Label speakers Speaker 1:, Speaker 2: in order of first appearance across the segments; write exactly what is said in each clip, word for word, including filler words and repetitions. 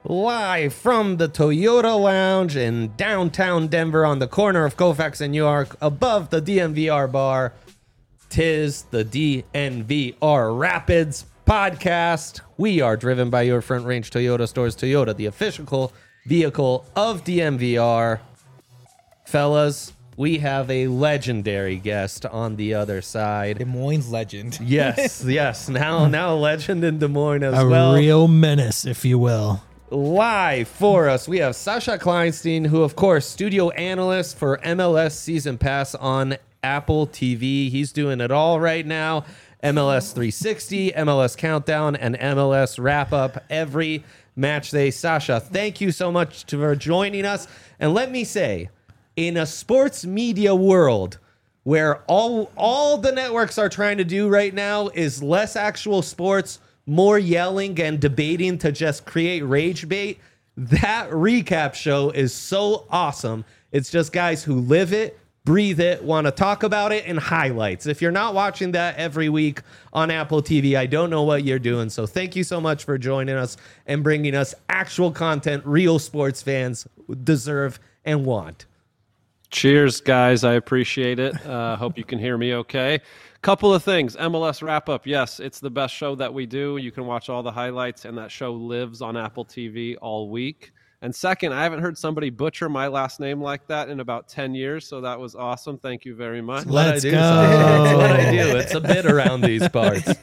Speaker 1: Live from the Toyota Lounge in downtown Denver on the corner of Colfax and York, above the D N V R bar. Tis the D N V R Rapids podcast. We are driven by your Front Range Toyota stores. Toyota, the official vehicle of D N V R. Fellas, we have a legendary guest on the other side.
Speaker 2: Des Moines legend.
Speaker 1: Yes, yes. Now, now a legend in Des Moines as
Speaker 3: a
Speaker 1: well.
Speaker 3: A real menace, if you will.
Speaker 1: Live for us, we have Sasha Kleinstein, who, of course, studio analyst for M L S Season Pass on Apple T V. He's doing it all right now. M L S three sixty, M L S Countdown, and M L S Wrap-Up every match day. Sasha, thank you so much for joining us. And let me say, in a sports media world where all all the networks are trying to do right now is less actual sports, more yelling and debating to just create rage bait, that recap show is so awesome. It's just guys who live it, breathe it, want to talk about it, and highlights. If you're not watching that every week on Apple T V, I don't know what you're doing. So thank you so much for joining us and bringing us actual content real sports fans deserve and want.
Speaker 4: Cheers, guys. I appreciate it. Uh, hope you can hear me okay. Couple of things. M L S Wrap-Up. Yes, it's the best show that we do. You can watch all the highlights, and that show lives on Apple T V all week. And second, I haven't heard somebody butcher my last name like that in about ten years, so that was awesome. Thank you very much.
Speaker 3: Let's
Speaker 1: go.
Speaker 3: go.
Speaker 1: That's what I do. It's a bit around these parts.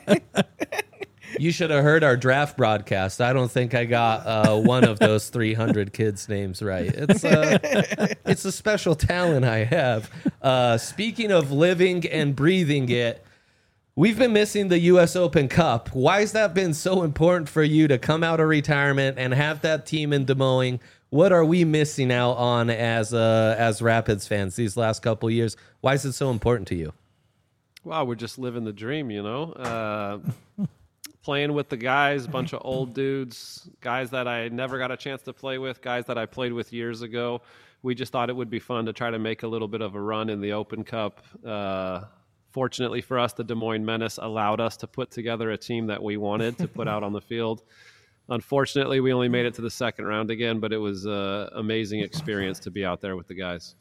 Speaker 1: You should have heard our draft broadcast. I don't think I got uh, one of those three hundred kids' names right. It's, uh, it's a special talent I have. Uh, speaking of living and breathing it, we've been missing the U S Open Cup. Why has that been so important for you to come out of retirement and have that team in Des Moines? What are we missing out on as uh, as Rapids fans these last couple years? Why is it so important to you?
Speaker 4: Wow, we're just living the dream, you know? Uh, playing with the guys, a bunch of old dudes, guys that I never got a chance to play with, guys that I played with years ago. We just thought it would be fun to try to make a little bit of a run in the Open Cup. Uh, fortunately for us, the Des Moines Menace allowed us to put together a team that we wanted to put out on the field. Unfortunately, we only made it to the second round again, but it was an amazing experience to be out there with the guys.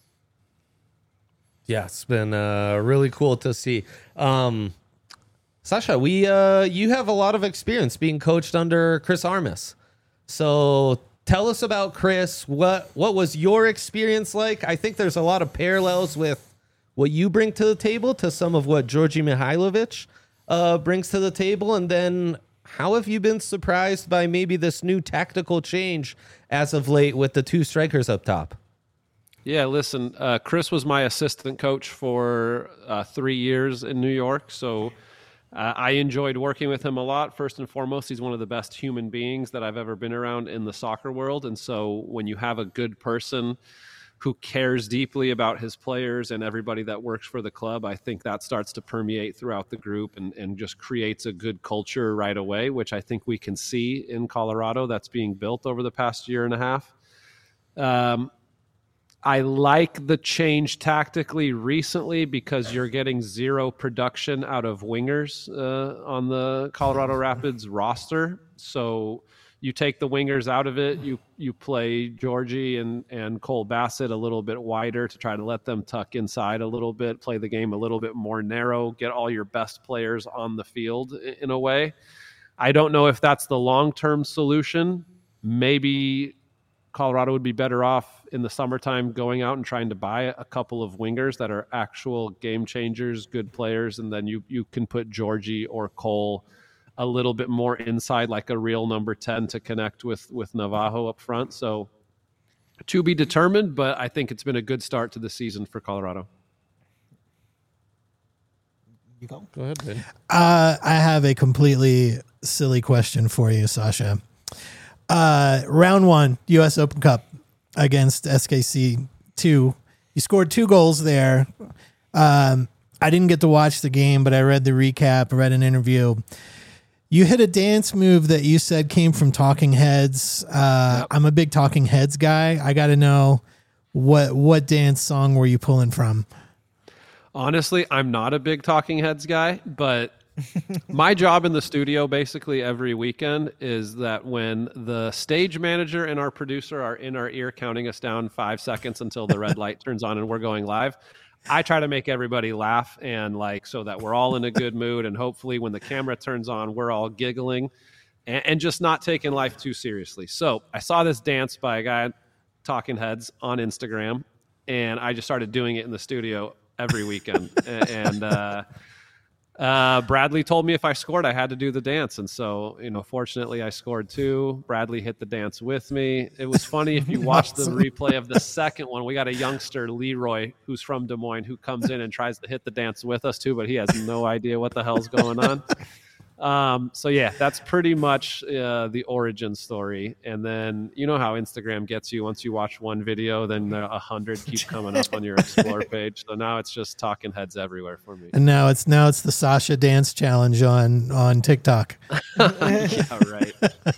Speaker 1: Yeah, it's been uh, really cool to see. Um, Sasha, we uh, you have a lot of experience being coached under Chris Armas. So tell us about Chris. What what was your experience like? I think there's a lot of parallels with what you bring to the table to some of what Djordje Mihailovic uh, brings to the table. And then how have you been surprised by maybe this new tactical change as of late with the two strikers up top?
Speaker 4: Yeah, listen, uh, Chris was my assistant coach for uh, three years in New York, so uh, I enjoyed working with him a lot. First and foremost, he's one of the best human beings that I've ever been around in the soccer world, and so when you have a good person who cares deeply about his players and everybody that works for the club, I think that starts to permeate throughout the group and, and just creates a good culture right away, which I think we can see in Colorado that's being built over the past year and a half. Um, I like the change tactically recently because you're getting zero production out of wingers uh, on the Colorado Rapids roster. So you take the wingers out of it, you you play Djordje and, and Cole Bassett a little bit wider to try to let them tuck inside a little bit, play the game a little bit more narrow, get all your best players on the field in a way. I don't know if that's the long-term solution. Maybe Colorado would be better off in the summertime going out and trying to buy a couple of wingers that are actual game changers, good players, and then you you can put Djordje or Cole a little bit more inside, like a real number ten to connect with with Navajo up front. So to be determined, but I think it's been a good start to the season for Colorado.
Speaker 2: You go.
Speaker 1: Go ahead, Ben.
Speaker 3: Uh, I have a completely silly question for you, Sasha. Uh, round one, U S Open Cup against S K C two. You scored two goals there. Um, I didn't get to watch the game, but I read the recap, read an interview. You hit a dance move that you said came from Talking Heads. Uh, yep. I'm a big Talking Heads guy. I got to know what what dance song were you pulling from?
Speaker 4: Honestly, I'm not a big Talking Heads guy, but My job in the studio basically every weekend is that when the stage manager and our producer are in our ear counting us down five seconds until the red light turns on and we're going live, I try to make everybody laugh and like so that we're all in a good mood, and hopefully when the camera turns on, we're all giggling and, and just not taking life too seriously. So I saw this dance by a guy, Talking Heads, on Instagram, and I just started doing it in the studio every weekend. and uh, uh, Bradley told me if I scored, I had to do the dance. And so, you know, fortunately I scored too. Bradley hit the dance with me. It was funny. If you watch the replay of the second one, we got a youngster, Leroy, who's from Des Moines, who comes in and tries to hit the dance with us too, but he has no idea what the hell's going on. Um, so yeah, that's pretty much uh, the origin story. And then you know how Instagram gets you. Once you watch one video, then a hundred keep coming up on your Explore page. So now it's just Talking Heads everywhere for me.
Speaker 3: And now it's now it's the Sasha dance challenge on on TikTok.
Speaker 4: Yeah, right.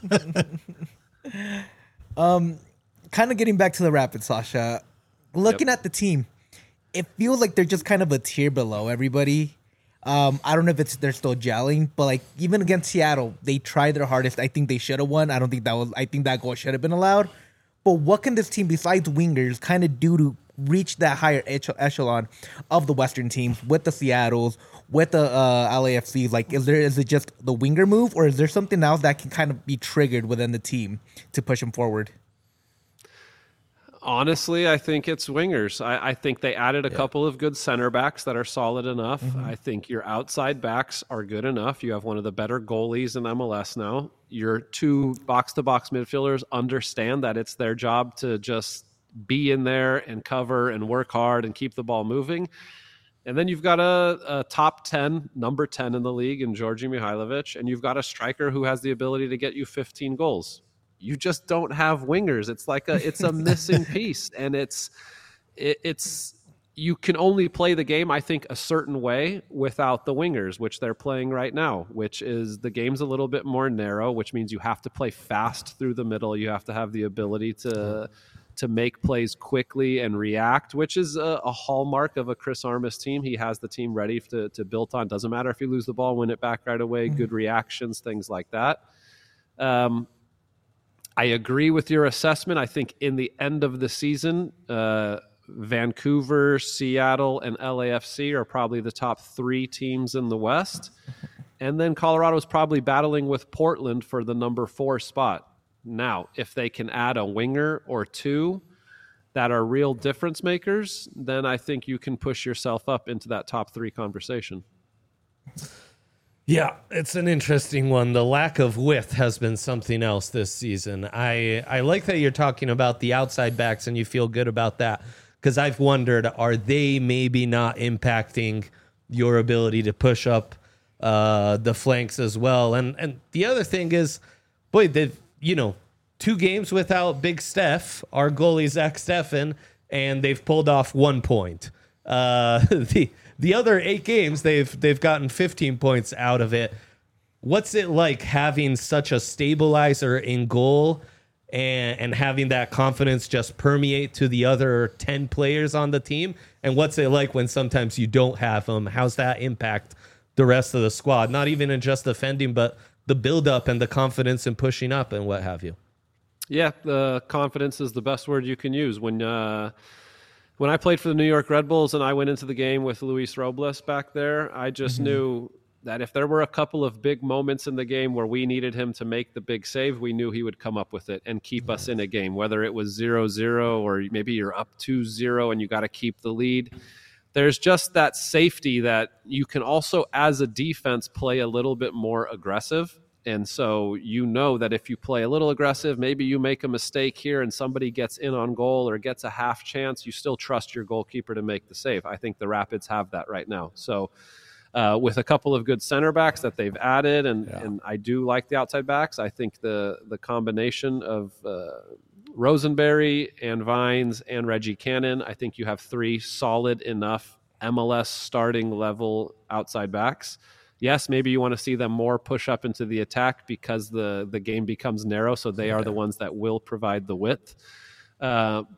Speaker 2: um, kind of getting back to the Rapids, Sasha. Looking
Speaker 4: Yep.
Speaker 2: at the team, it feels like they're just kind of a tier below everybody. Um, I don't know if it's they're still gelling, but like even against Seattle, they tried their hardest. I think they should have won. I don't think that was. I think that goal should have been allowed. But what can this team, besides wingers, kind of do to reach that higher ech- echelon of the Western teams with the Seattles, with the uh, L A F Cs? Like, is there is it just the winger move, or is there something else that can kind of be triggered within the team to push them forward?
Speaker 4: Honestly, I think it's wingers. I, I think they added a yeah. couple of good center backs that are solid enough. Mm-hmm. I think your outside backs are good enough. You have one of the better goalies in M L S now. Your two box-to-box midfielders understand that it's their job to just be in there and cover and work hard and keep the ball moving. And then you've got a, a top ten, number ten in the league in Georgi Mihailovic, and you've got a striker who has the ability to get you fifteen goals. You just don't have wingers. It's like a it's a missing piece, and it's it, it's you can only play the game, I think, a certain way without the wingers, which they're playing right now, which is the game's a little bit more narrow, which means you have to play fast through the middle. You have to have the ability to to make plays quickly and react, which is a, a hallmark of a Chris Armas team. He has the team ready to to build on. Doesn't matter if you lose the ball, win it back right away, mm-hmm. good reactions, things like that. Um, I agree with your assessment. I think in the end of the season, uh, Vancouver, Seattle, and L A F C are probably the top three teams in the West. And then Colorado's probably battling with Portland for the number four spot. Now, if they can add a winger or two that are real difference makers, then I think you can push yourself up into that top three conversation.
Speaker 1: Yeah, it's an interesting one. The lack of width has been something else this season. I, I like that you're talking about the outside backs and you feel good about that, because I've wondered, are they maybe not impacting your ability to push up uh, the flanks as well? And and the other thing is, boy, they've, you know, two games without Big Steph, our goalie Zach Steffen, and they've pulled off one point. Uh, the the other eight games, they've they've gotten fifteen points out of it. What's it like having such a stabilizer in goal and, and having that confidence just permeate to the other ten players on the team? And what's it like when sometimes you don't have them? How's that impact the rest of the squad? Not even in just defending, but the build-up and the confidence in pushing up and what have you.
Speaker 4: Yeah, the confidence is the best word you can use. When uh, when I played for the New York Red Bulls and I went into the game with Luis Robles back there, I just mm-hmm. knew that if there were a couple of big moments in the game where we needed him to make the big save, we knew he would come up with it and keep mm-hmm. us in a game, whether it was zero zero or maybe you're up two zero and you got to keep the lead. There's just that safety that you can also, as a defense, play a little bit more aggressive. And so you know that if you play a little aggressive, maybe you make a mistake here and somebody gets in on goal or gets a half chance, you still trust your goalkeeper to make the save. I think the Rapids have that right now. So uh, with a couple of good center backs that they've added, and, yeah. and I do like the outside backs, I think the, the combination of uh, Rosenberry and Vines and Reggie Cannon, I think you have three solid enough M L S starting level outside backs. Yes, maybe you want to see them more push up into the attack because the, the game becomes narrow, so they are the ones that will provide the width. Uh,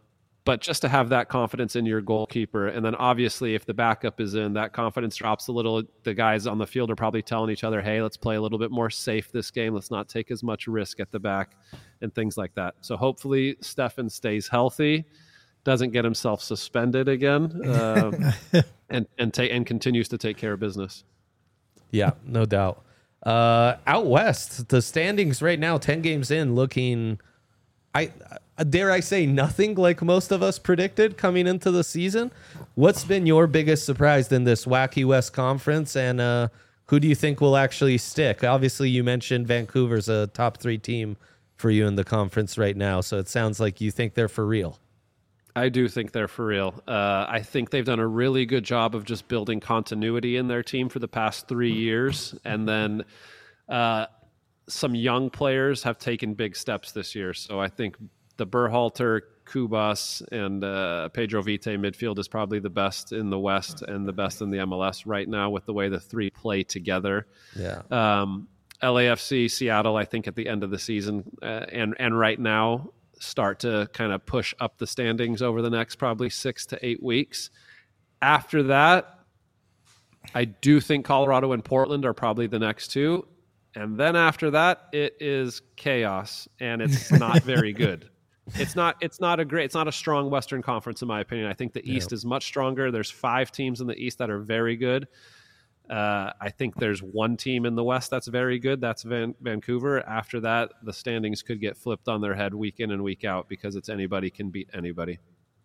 Speaker 4: But just to have that confidence in your goalkeeper, and then obviously if the backup is in, that confidence drops a little. The guys on the field are probably telling each other, hey, let's play a little bit more safe this game. Let's not take as much risk at the back and things like that. So hopefully Stefan stays healthy, doesn't get himself suspended again, uh, and and, ta- and continues to take care of business.
Speaker 1: Yeah, no doubt. Uh, out west, the standings right now, ten games in, looking... I uh, dare I say nothing like most of us predicted coming into the season. What's been your biggest surprise in this wacky West Conference, and uh, who do you think will actually stick? Obviously, you mentioned Vancouver's a top three team for you in the conference right now, so it sounds like you think they're for real.
Speaker 4: I do think they're for real. Uh, I think they've done a really good job of just building continuity in their team for the past three years, and then uh, some young players have taken big steps this year. So I think the Berhalter, Kubas, and uh, Pedro Vite midfield is probably the best in the West and the best in the M L S right now with the way the three play together.
Speaker 1: Yeah.
Speaker 4: Um, L A F C, Seattle, I think at the end of the season uh, and and right now start to kind of push up the standings over the next probably six to eight weeks. After that, I do think Colorado and Portland are probably the next two. And then after that, it is chaos, and it's not very good. It's not. It's not a great. It's not a strong Western Conference, in my opinion. I think the East
Speaker 1: Yeah.
Speaker 4: is much stronger. There's five teams in the East that are very good. Uh, I think there's one team in the West that's very good. That's Van- Vancouver. After that, the standings could get flipped on their head week in and week out because it's anybody can beat anybody.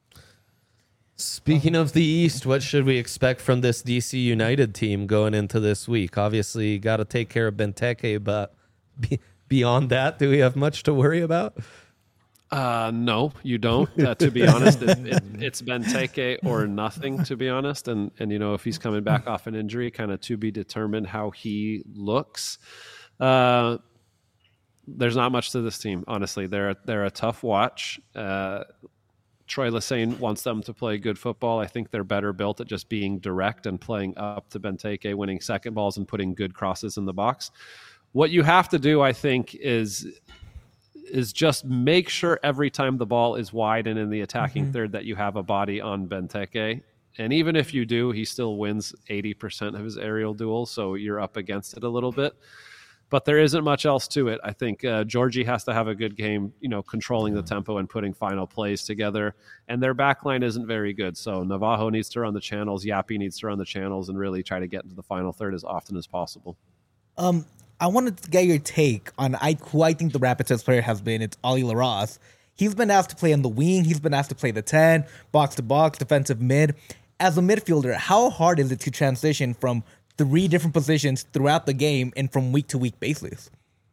Speaker 1: Speaking of the East, what should we expect from this D C United team going into this week? Obviously, got to take care of Benteke, but be, beyond that, do we have much to worry about?
Speaker 4: Uh, no, you don't. Uh, to be honest, it, it, it's Benteke or nothing, to be honest. And, and you know, if he's coming back off an injury, kind of to be determined how he looks. Uh, there's not much to this team, honestly. They're, they're a tough watch. Uh, Troy Lesesne wants them to play good football. I think they're better built at just being direct and playing up to Benteke, winning second balls and putting good crosses in the box. What you have to do, I think, is is just make sure every time the ball is wide and in the attacking mm-hmm. third that you have a body on Benteke. And even if you do, he still wins eighty percent of his aerial duels, so you're up against it a little bit. But there isn't much else to it. I think uh, Georgie has to have a good game, you know, controlling the tempo and putting final plays together. And their back line isn't very good. So Navajo needs to run the channels. Yappy needs to run the channels and really try to get into the final third as often as possible.
Speaker 2: Um, I wanted to get your take on I, who I think the Rapids best player has been. It's Ollie LaRosse. He's been asked to play on the wing. He's been asked to play the ten, box to box, defensive mid. As a midfielder, how hard is it to transition from three different positions throughout the game and from week to week basis?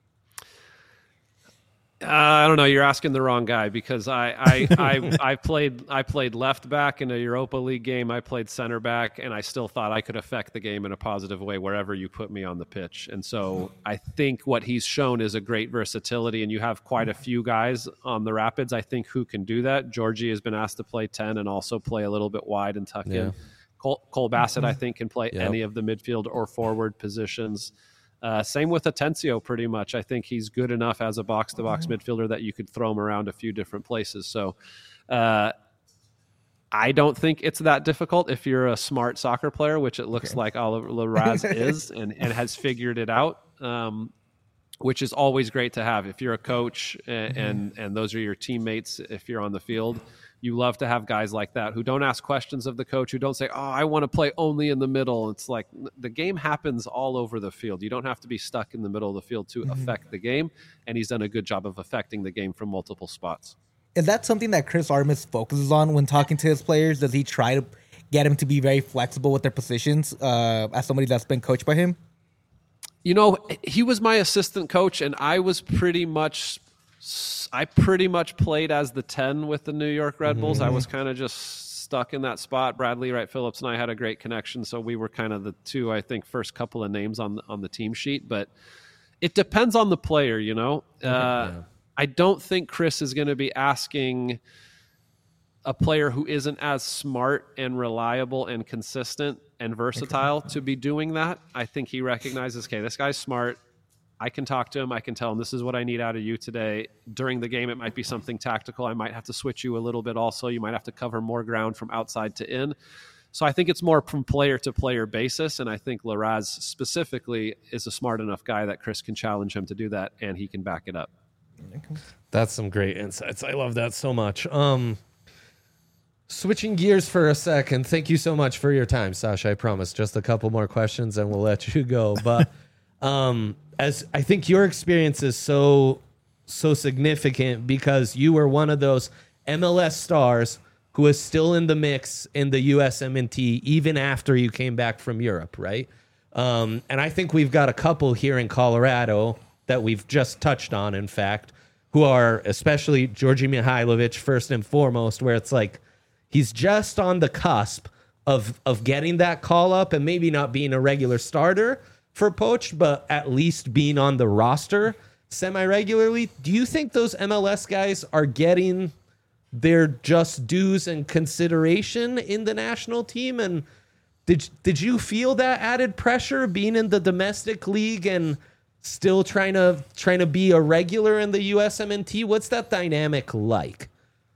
Speaker 4: Uh, I don't know. You're asking the wrong guy because I I, I I played I played left back in a Europa League game. I played center back, and I still thought I could affect the game in a positive way wherever you put me on the pitch. And so I think what he's shown is a great versatility, and you have quite a few guys on the Rapids, I think, who can do that. Georgie has been asked to play ten and also play a little bit wide and tuck
Speaker 1: Yeah.
Speaker 4: in. Cole, Cole Bassett, I think, can play
Speaker 1: Yep.
Speaker 4: any of the midfield or forward positions. Uh, same with Atencio, pretty much. I think he's good enough as a box-to-box midfielder that you could throw him around a few different places. So uh, I don't think it's that difficult if you're a smart soccer player, which it looks okay. like Oliver LaRosse is and, and has figured it out, um, which is always great to have. If you're a coach and, mm-hmm. and, and those are your teammates, if you're on the field, you love to have guys like that who don't ask questions of the coach, who don't say, oh, I want to play only in the middle. It's like the game happens all over the field. You don't have to be stuck in the middle of the field to mm-hmm. affect the game. And he's done a good job of affecting the game from multiple spots.
Speaker 2: Is that something that Chris Armas focuses on when talking to his players? Does he try to get him to be very flexible with their positions uh, as somebody that's been coached by him?
Speaker 4: You know, he was my assistant coach, and I was pretty much I pretty much played as the ten with the New York Red Bulls. Mm-hmm. I was kind of just stuck in that spot. Bradley Wright Phillips and I had a great connection, so we were kind of the two, I think, first couple of names on the, on the team sheet. But it depends on the player, you know. Uh, yeah. I don't think Chris is going to be asking a player who isn't as smart and reliable and consistent and versatile to be doing that. I think he recognizes, okay, this guy's smart. I can talk to him. I can tell him, this is what I need out of you today. During the game, it might be something tactical. I might have to switch you a little bit also. You might have to cover more ground from outside to in. So I think it's more from player to player basis. And I think Larraz specifically is a smart enough guy that Chris can challenge him to do that, and he can back it up.
Speaker 1: That's some great insights. I love that so much. Um, switching gears for a second. Thank you so much for your time, Sasha. I promise just a couple more questions and we'll let you go. But um, as I think your experience is so, so significant because you were one of those M L S stars who is still in the mix in the U S M N T even after you came back from Europe, right? Um, and I think we've got a couple here in Colorado that we've just touched on, in fact, who are especially Georgi Mihailovic, first and foremost, where it's like he's just on the cusp of of getting that call up and maybe not being a regular starter for Poach, but at least being on the roster semi-regularly. Do you think those M L S guys are getting their just dues and consideration in the national team? And did did you feel that added pressure being in the domestic league and still trying to trying to be a regular in the U S M N T? What's that dynamic like?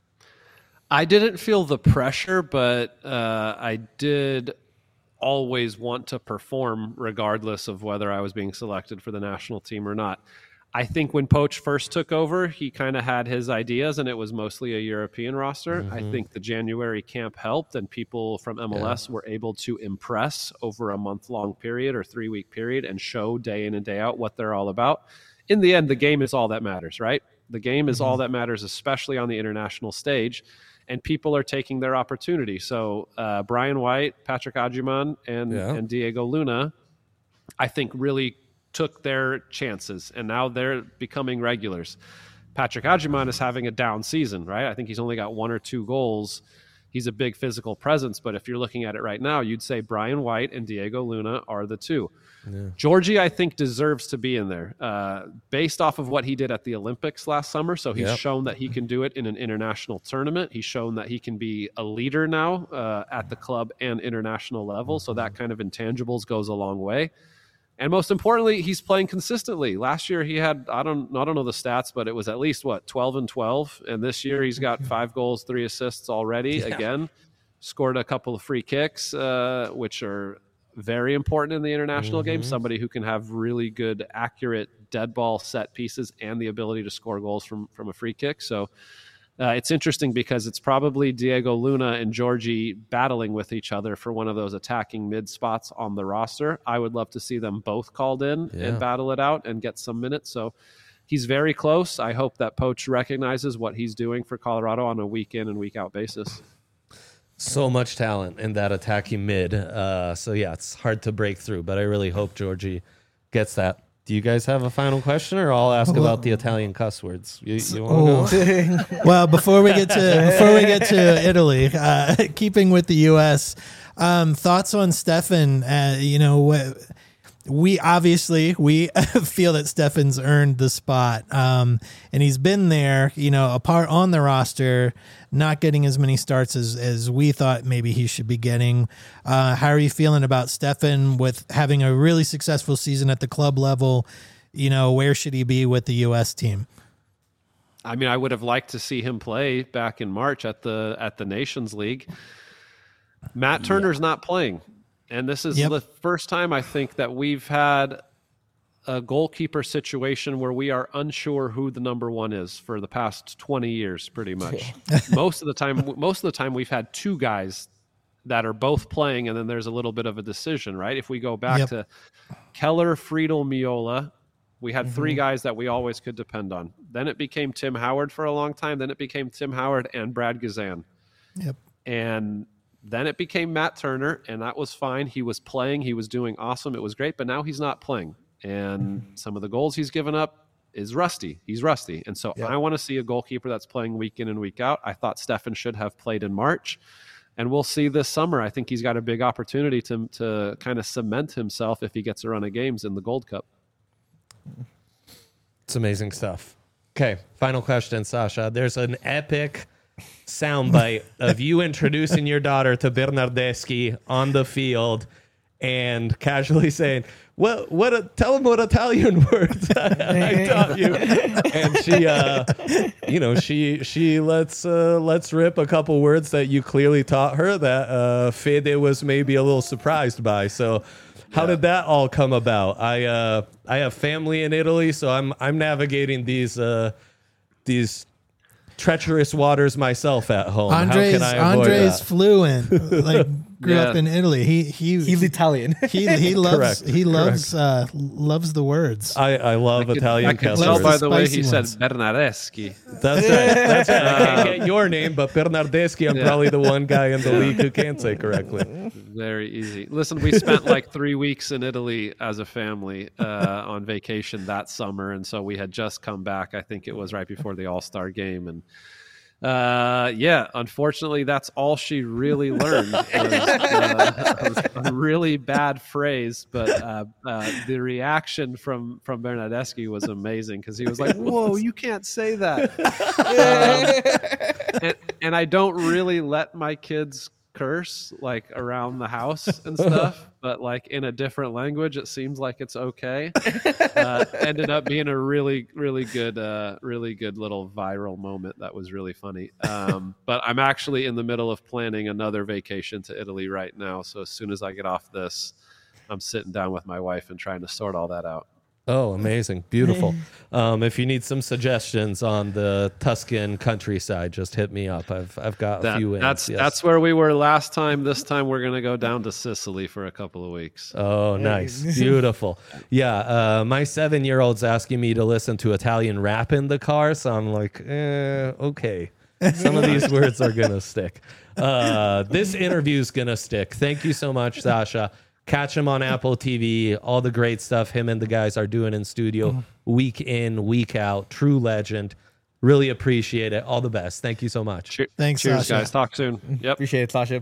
Speaker 4: I didn't feel the pressure, but uh, I did always want to perform regardless of whether I was being selected for the national team or not. I think when Poach first took over, he kind of had his ideas, and it was mostly a European roster. Mm-hmm. I think the January camp helped, and people from M L S yeah. were able to impress over a month-long period or three-week period and show day in and day out what they're all about. In the end, the game is all that matters, right? The game is mm-hmm. all that matters, especially on the international stage, and people are taking their opportunity. So uh, Brian White, Patrick Agyemang, and, yeah. and Diego Luna, I think really took their chances, and now they're becoming regulars. Patrick Agyemang is having a down season, right? I think he's only got one or two goals. He's a big physical presence, but if you're looking at it right now, you'd say Brian White and Diego Luna are the two. Yeah. Georgi, I think, deserves to be in there uh, based off of what he did at the Olympics last summer. So he's yep. shown that he can do it in an international tournament. He's shown that he can be a leader now uh, at the club and international level. So that kind of intangibles goes a long way. And most importantly, he's playing consistently. Last year he had, I don't I don't know the stats, but it was at least, what, twelve and twelve. And this year he's got five goals, three assists already. Yeah. Again, scored a couple of free kicks, uh, which are very important in the international mm-hmm. game. Somebody who can have really good, accurate dead ball set pieces and the ability to score goals from, from a free kick. So Uh, it's interesting because it's probably Diego Luna and Georgi battling with each other for one of those attacking mid spots on the roster. I would love to see them both called in yeah. and battle it out and get some minutes. So he's very close. I hope that Poach recognizes what he's doing for Colorado on a week in and week out basis.
Speaker 1: So much talent in that attacking mid. Uh, so yeah, it's hard to break through, but I really hope Georgi gets that. Do you guys have a final question, or I'll ask well, about the Italian cuss words? You, you want to
Speaker 3: go? Well, before we get to before we get to Italy, uh, keeping with the U S, um, thoughts on Stefan? Uh, you know, we obviously we feel that Stefan's earned the spot, um, and he's been there. You know, apart on the roster, not getting as many starts as, as we thought maybe he should be getting. Uh, how are you feeling about Stefan with having a really successful season at the club level? You know, where should he be with the U S team?
Speaker 4: I mean, I would have liked to see him play back in March at the at the Nations League. Matt Turner's yeah. not playing. And this is yep. the first time I think that we've had a goalkeeper situation where we are unsure who the number one is for the past twenty years, pretty much. most of the time, most of the time we've had two guys that are both playing, and then there's a little bit of a decision, right? If we go back yep. to Keller, Friedel, Miola, we had mm-hmm. three guys that we always could depend on. Then it became Tim Howard for a long time. Then it became Tim Howard and Brad Gazan.
Speaker 3: Yep.
Speaker 4: And then it became Matt Turner, and that was fine. He was playing. He was doing awesome. It was great, but now he's not playing. And some of the goals he's given up is rusty. He's rusty. And so yep. I want to see a goalkeeper that's playing week in and week out. I thought Stefan should have played in March, and we'll see this summer. I think he's got a big opportunity to, to kind of cement himself if he gets a run of games in the Gold Cup.
Speaker 1: It's amazing stuff. Okay, final question, Sasha. There's an epic soundbite of you introducing your daughter to Bernardeschi on the field, and casually saying, "Well, what? A, tell them what Italian words I, I taught you." And she, uh, you know, she she lets uh, lets rip a couple words that you clearly taught her that uh, Fede was maybe a little surprised by. So, how did that all come about? I uh, I have family in Italy, so I'm I'm navigating these uh, these treacherous waters myself at home.
Speaker 3: Andres,
Speaker 1: How can I avoid
Speaker 3: Andres
Speaker 1: that?
Speaker 3: fluent, like grew
Speaker 4: Yeah.
Speaker 3: up in Italy. He he
Speaker 2: He's Italian.
Speaker 3: he he loves
Speaker 1: Correct,
Speaker 3: he loves uh, loves the words.
Speaker 1: I, I love Italian
Speaker 4: I can
Speaker 1: cuss
Speaker 4: tell
Speaker 3: Loves
Speaker 1: words.
Speaker 4: by
Speaker 3: the
Speaker 4: the way
Speaker 3: spicy
Speaker 4: he
Speaker 3: ones.
Speaker 4: said Bernardeschi.
Speaker 1: That's right. That's right. I can't get your name, but Bernardeschi, I'm
Speaker 4: Yeah.
Speaker 1: probably the one guy in the league who can say correctly.
Speaker 4: Very easy. Listen, we spent like three weeks in Italy as a family uh, on vacation that summer, and so we had just come back. I think it was right before the All Star game, and uh, yeah, unfortunately, that's all she really learned. Was, uh, was a really bad phrase, but uh, uh, the reaction from from Bernardeschi was amazing because he was like, "Whoa, you can't say that." um, and, and I don't really let my kids curse like around the house and stuff, but like in a different language, it seems like it's okay. Uh, ended up being a really, really good, uh, really good little viral moment that was really funny. Um, but I'm actually in the middle of planning another vacation to Italy right now. So as soon as I get off this, I'm sitting down with my wife and trying to sort all that out.
Speaker 1: Oh, amazing. Beautiful. Um, if you need some suggestions on the Tuscan countryside, just hit me up. I've I've got a
Speaker 4: That-
Speaker 1: few in.
Speaker 4: that's
Speaker 1: yes.
Speaker 4: that's where we were last time. This time we're gonna go down to Sicily for a couple of weeks.
Speaker 1: Oh, nice. Beautiful. Yeah. Uh, my seven year old's asking me to listen to Italian rap in the car. So I'm like, eh, okay. Some of these words are going to stick. Uh, this interview is going to stick. Thank you so much, Sasha. Catch him on Apple T V. All the great stuff him and the guys are doing in studio week in, week out. True legend. Really appreciate it. All the best. Thank you so much.
Speaker 4: Che-
Speaker 3: Thanks,
Speaker 4: Cheers,
Speaker 3: Sasha.
Speaker 4: guys. Talk soon. Yep.
Speaker 2: Appreciate it, Sasha.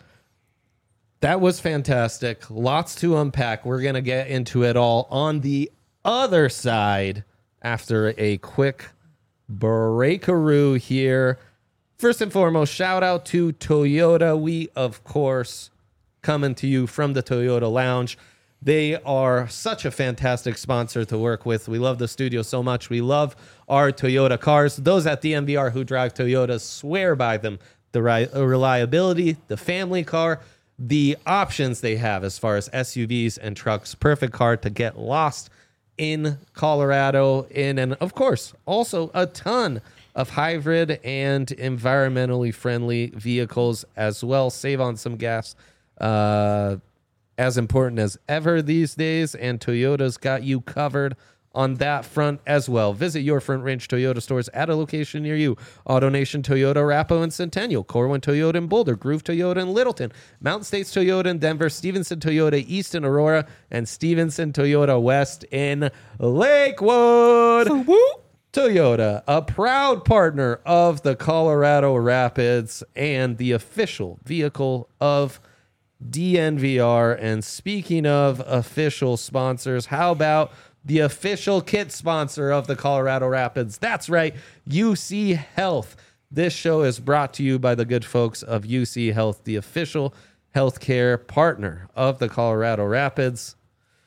Speaker 1: That was fantastic. Lots to unpack. We're going to get into it all on the other side after a quick breakaroo here. First and foremost, shout out to Toyota. We, of course, coming to you from the Toyota Lounge. They are such a fantastic sponsor to work with. We love the studio so much. We love our Toyota cars. Those at D M V R who drive Toyotas swear by them. The ri- reliability, the family car, the options they have as far as S U Vs and trucks. Perfect car to get lost in Colorado in, and of course, also a ton of hybrid and environmentally friendly vehicles as well. Save on some gas. Uh, as important as ever these days, and Toyota's got you covered on that front as well. Visit your Front Range Toyota stores at a location near you. AutoNation Toyota, Arapahoe and Centennial, Corwin Toyota in Boulder, Groove Toyota in Littleton, Mountain States Toyota in Denver, Stevenson Toyota East in Aurora, and Stevenson Toyota West in Lakewood. Toyota, a proud partner of the Colorado Rapids and the official vehicle of D N V R. And speaking of official sponsors, how about the official kit sponsor of the Colorado Rapids? That's right, U C Health. This show is brought to you by the good folks of U C Health, the official healthcare partner of the Colorado Rapids.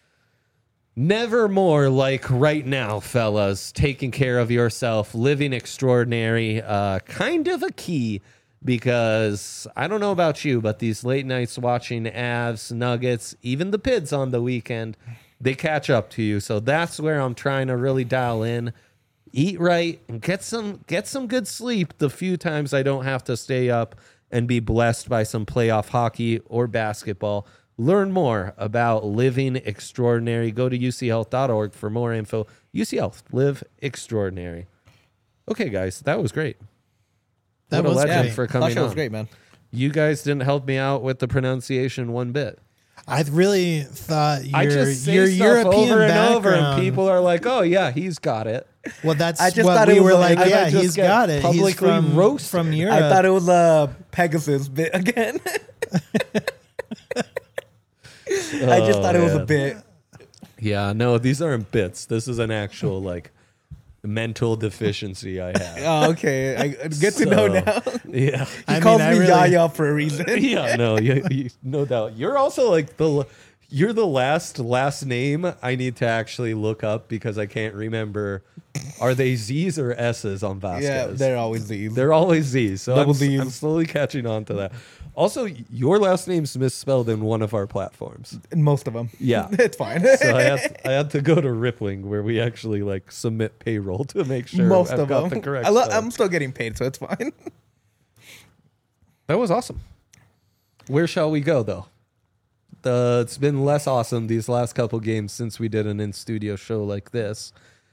Speaker 1: Never more like right now, fellas, taking care of yourself, living extraordinary, uh, kind of a key, because I don't know about you, but these late nights watching Avs, Nuggets, even the Pids on the weekend, they catch up to you. So that's where I'm trying to really dial in, eat right, and get some get some good sleep the few times I don't have to stay up and be blessed by some playoff hockey or basketball. Learn more about living extraordinary. Go to U C health dot org for more info. U C Health, live extraordinary. Okay, guys, that was great.
Speaker 3: That
Speaker 1: What a
Speaker 3: was
Speaker 1: legend
Speaker 3: great.
Speaker 1: for coming
Speaker 2: Sasha
Speaker 1: on.
Speaker 2: was great, man.
Speaker 1: You guys didn't help me out with the pronunciation one bit.
Speaker 3: I really thought your,
Speaker 1: I just say
Speaker 3: your
Speaker 1: stuff
Speaker 3: European
Speaker 1: over and
Speaker 3: background,
Speaker 1: over, and people are like, "Oh yeah, he's got it."
Speaker 3: Well, that's
Speaker 2: I just
Speaker 3: what
Speaker 2: thought
Speaker 3: we
Speaker 2: it was
Speaker 3: were
Speaker 2: a-
Speaker 3: like.
Speaker 2: I
Speaker 3: Yeah,
Speaker 1: might just
Speaker 3: he's
Speaker 1: get
Speaker 3: got it. He's
Speaker 1: publicly
Speaker 3: from,
Speaker 1: roasted.
Speaker 3: from Europe.
Speaker 2: I thought it was a Pegasus bit again. I just
Speaker 1: Oh,
Speaker 2: thought it was a
Speaker 1: man.
Speaker 2: bit.
Speaker 1: Yeah, no, these aren't bits. This is an actual like mental deficiency I have.
Speaker 2: Oh, okay. I good to know
Speaker 1: So,
Speaker 2: now.
Speaker 1: Yeah,
Speaker 2: He
Speaker 3: I
Speaker 2: calls
Speaker 3: mean, I
Speaker 2: me
Speaker 3: really-
Speaker 2: Yaya for a reason.
Speaker 1: yeah, no, you, you, no doubt. You're also like the You're the last last name I need to actually look up because I can't remember. Are they Z's or S's on Vasquez?
Speaker 2: Yeah, they're always these.
Speaker 1: They're always Z's. So
Speaker 2: Double
Speaker 1: I'm,
Speaker 2: Z's.
Speaker 1: I'm slowly catching on to that. Also, your last name's misspelled in one of our platforms.
Speaker 2: Most of them.
Speaker 1: Yeah.
Speaker 2: It's fine.
Speaker 1: So I had, I had to go to Rippling where we actually like submit payroll to make sure
Speaker 2: Most
Speaker 1: I've
Speaker 2: of
Speaker 1: got
Speaker 2: them.
Speaker 1: the correct
Speaker 2: I lo-
Speaker 1: spelling.
Speaker 2: I'm still getting paid, so it's fine.
Speaker 1: That was awesome. Where shall we go, though? The, it's been less awesome these last couple games since we did an in-studio show like this.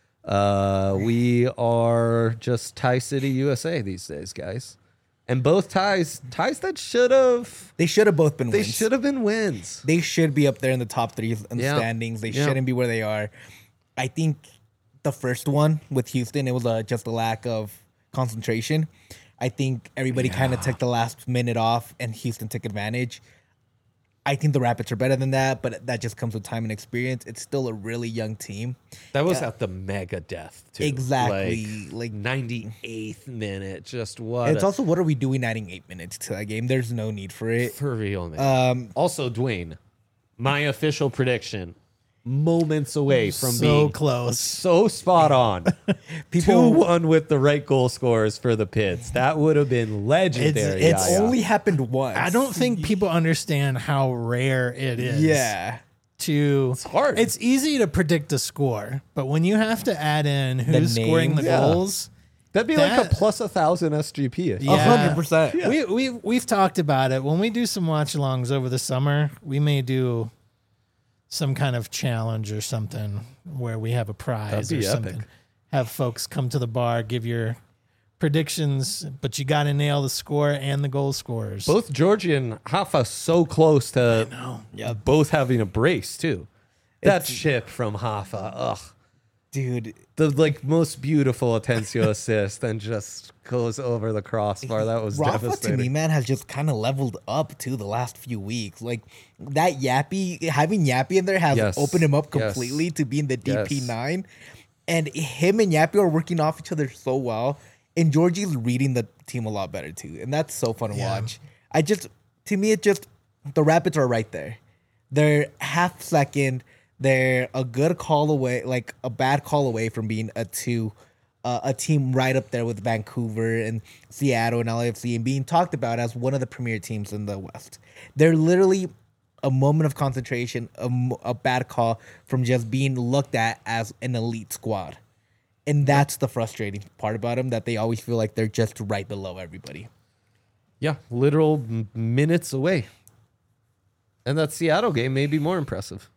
Speaker 1: Uh, we are just Tie City, U S A these days, guys. And both ties, ties that should have,
Speaker 2: They should have both been
Speaker 1: they
Speaker 2: wins.
Speaker 1: should have been wins.
Speaker 2: They should be up there in the top three in the
Speaker 1: Yeah.
Speaker 2: standings. They
Speaker 1: Yeah.
Speaker 2: shouldn't be where they are. I think the first one with Houston, it was uh, just a lack of concentration. I think everybody kind of took the last minute off, and Houston took advantage. I think the Rapids are better than that, but that just comes with time and experience. It's still a really young team.
Speaker 1: That was at the mega death, too.
Speaker 2: Exactly.
Speaker 1: Like,
Speaker 2: Like-
Speaker 1: ninety-eighth minute. Just what?
Speaker 2: And it's
Speaker 1: a-
Speaker 2: also, what are we doing adding eight minutes to that game? There's no need for it.
Speaker 1: for real, man.
Speaker 2: Um,
Speaker 1: Also, Dwayne, my official prediction, moments away from
Speaker 3: so
Speaker 1: being
Speaker 3: close.
Speaker 1: so spot on.
Speaker 2: People-
Speaker 1: two one with the right goal scorers for the Pits. That would have been legendary.
Speaker 2: It's
Speaker 1: yeah, yeah.
Speaker 2: only happened once.
Speaker 3: I don't think people understand how rare it is.
Speaker 2: Yeah.
Speaker 3: To
Speaker 1: It's hard.
Speaker 3: It's easy to predict a score, but when you have to add in who's scoring the
Speaker 2: names.
Speaker 1: Yeah.
Speaker 3: goals,
Speaker 1: That'd be like a
Speaker 3: that-
Speaker 1: plus a thousand S G P.
Speaker 2: A hundred percent.
Speaker 3: We we we've talked about it. When we do some watch alongs over the summer, we may do some kind of challenge or something where we have a prize
Speaker 1: That'd
Speaker 3: or
Speaker 1: be
Speaker 3: something.
Speaker 1: epic.
Speaker 3: Have folks come to the bar, give your predictions, but you got to nail the score and the goal scorers.
Speaker 1: Both Georgie and Hafa so close to both having a brace too. That chip from Hafa, ugh.
Speaker 2: Dude,
Speaker 1: The like most beautiful Atencio assist and just goes over the crossbar. That was
Speaker 2: Rafa to
Speaker 1: devastating.
Speaker 2: me, man, has just kind of leveled up too the last few weeks. Like that Yappy, having Yappy in there has
Speaker 1: Yes.
Speaker 2: opened him up
Speaker 1: Yes.
Speaker 2: completely to be in the D P
Speaker 1: Yes.
Speaker 2: nine. And him and Yappy are working off each other so well. And Georgie's reading the team a lot better too. And that's so fun to
Speaker 3: Yeah.
Speaker 2: watch. I just, to me, it just, the Rapids are right there. They're half second. They're a good call away, like a bad call away from being a two, uh, a team right up there with Vancouver and Seattle and L A F C and being talked about as one of the premier teams in the West. They're literally a moment of concentration, a, mo- a bad call from just being looked at as an elite squad. And that's the frustrating part about them, that they always feel like they're just right below everybody.
Speaker 1: Yeah, literal m- minutes away. And that Seattle game may be more impressive.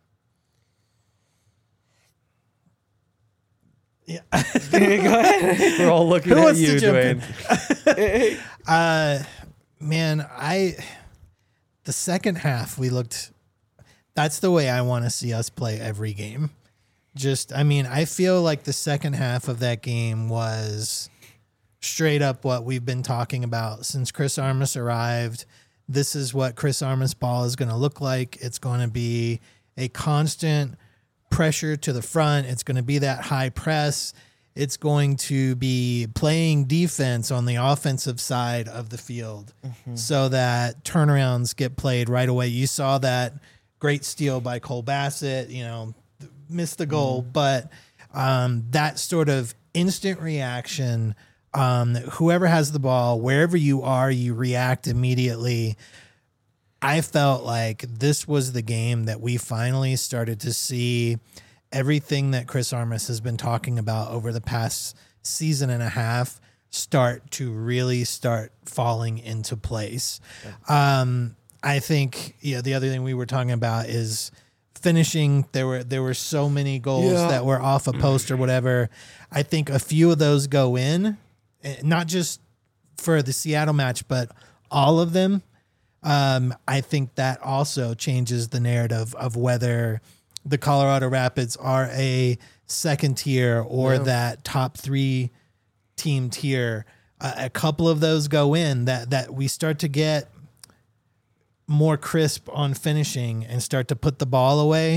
Speaker 3: Yeah.
Speaker 1: We're all looking
Speaker 3: Who
Speaker 1: at
Speaker 3: wants to
Speaker 1: you,
Speaker 3: jump in?
Speaker 1: Dwayne.
Speaker 3: Uh, man, I the second half we looked. That's the way I want to see us play every game. Just, I mean, I feel like the second half of that game was straight up what we've been talking about since Chris Armas arrived. This is what Chris Armas ball is going to look like. It's going to be a constant pressure to the front. It's going to be that high press. It's going to be playing defense on the offensive side of the field so that turnarounds get played right away. You saw that great steal by Cole Bassett, you know, missed the goal, but um, that sort of instant reaction, um, whoever has the ball, wherever you are, you react immediately. I felt like this was the game that we finally started to see everything that Chris Armas has been talking about over the past season and a half start to really start falling into place. Um, I think, you know, the other thing we were talking about is finishing. There were there were so many goals
Speaker 1: Yeah.
Speaker 3: that were off a post or whatever. I think a few of those go in, eh, not just for the Seattle match, but all of them. Um, I think that also changes the narrative of whether the Colorado Rapids are a second tier or
Speaker 1: Yeah.
Speaker 3: that top three team tier. Uh, a couple of those go in, that that we start to get more crisp on finishing and start to put the ball away.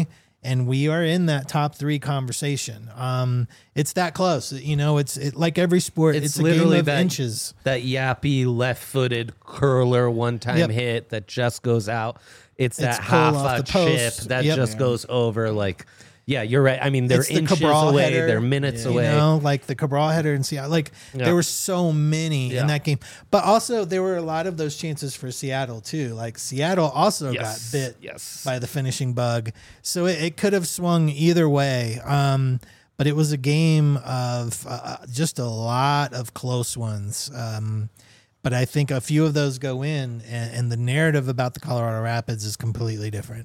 Speaker 3: and we are in that top three conversation. Um, it's that close. You know, it's it, like every sport. It's,
Speaker 1: It's
Speaker 3: a
Speaker 1: literally
Speaker 3: game of
Speaker 1: that-
Speaker 3: inches.
Speaker 1: That yappy left-footed curler one-time
Speaker 3: Yep.
Speaker 1: hit that just goes out. It's that
Speaker 3: It's pull
Speaker 1: half
Speaker 3: off
Speaker 1: a
Speaker 3: the post.
Speaker 1: chip that
Speaker 3: Yep.
Speaker 1: just goes over. Like, yeah, you're right. I mean, they're
Speaker 3: It's the
Speaker 1: inches
Speaker 3: Cabral
Speaker 1: away.
Speaker 3: header,
Speaker 1: They're minutes
Speaker 3: You
Speaker 1: away.
Speaker 3: know, like the Cabral header in Seattle. Like
Speaker 1: Yeah.
Speaker 3: there were so many
Speaker 1: Yeah.
Speaker 3: in that game, but also there were a lot of those chances for Seattle too. Like Seattle also
Speaker 1: Yes.
Speaker 3: got bit
Speaker 1: Yes.
Speaker 3: by the finishing bug, so it, it could have swung either way. Um, but it was a game of uh, just a lot of close ones. Um, but I think a few of those go in, and, and the narrative about the Colorado Rapids is completely different.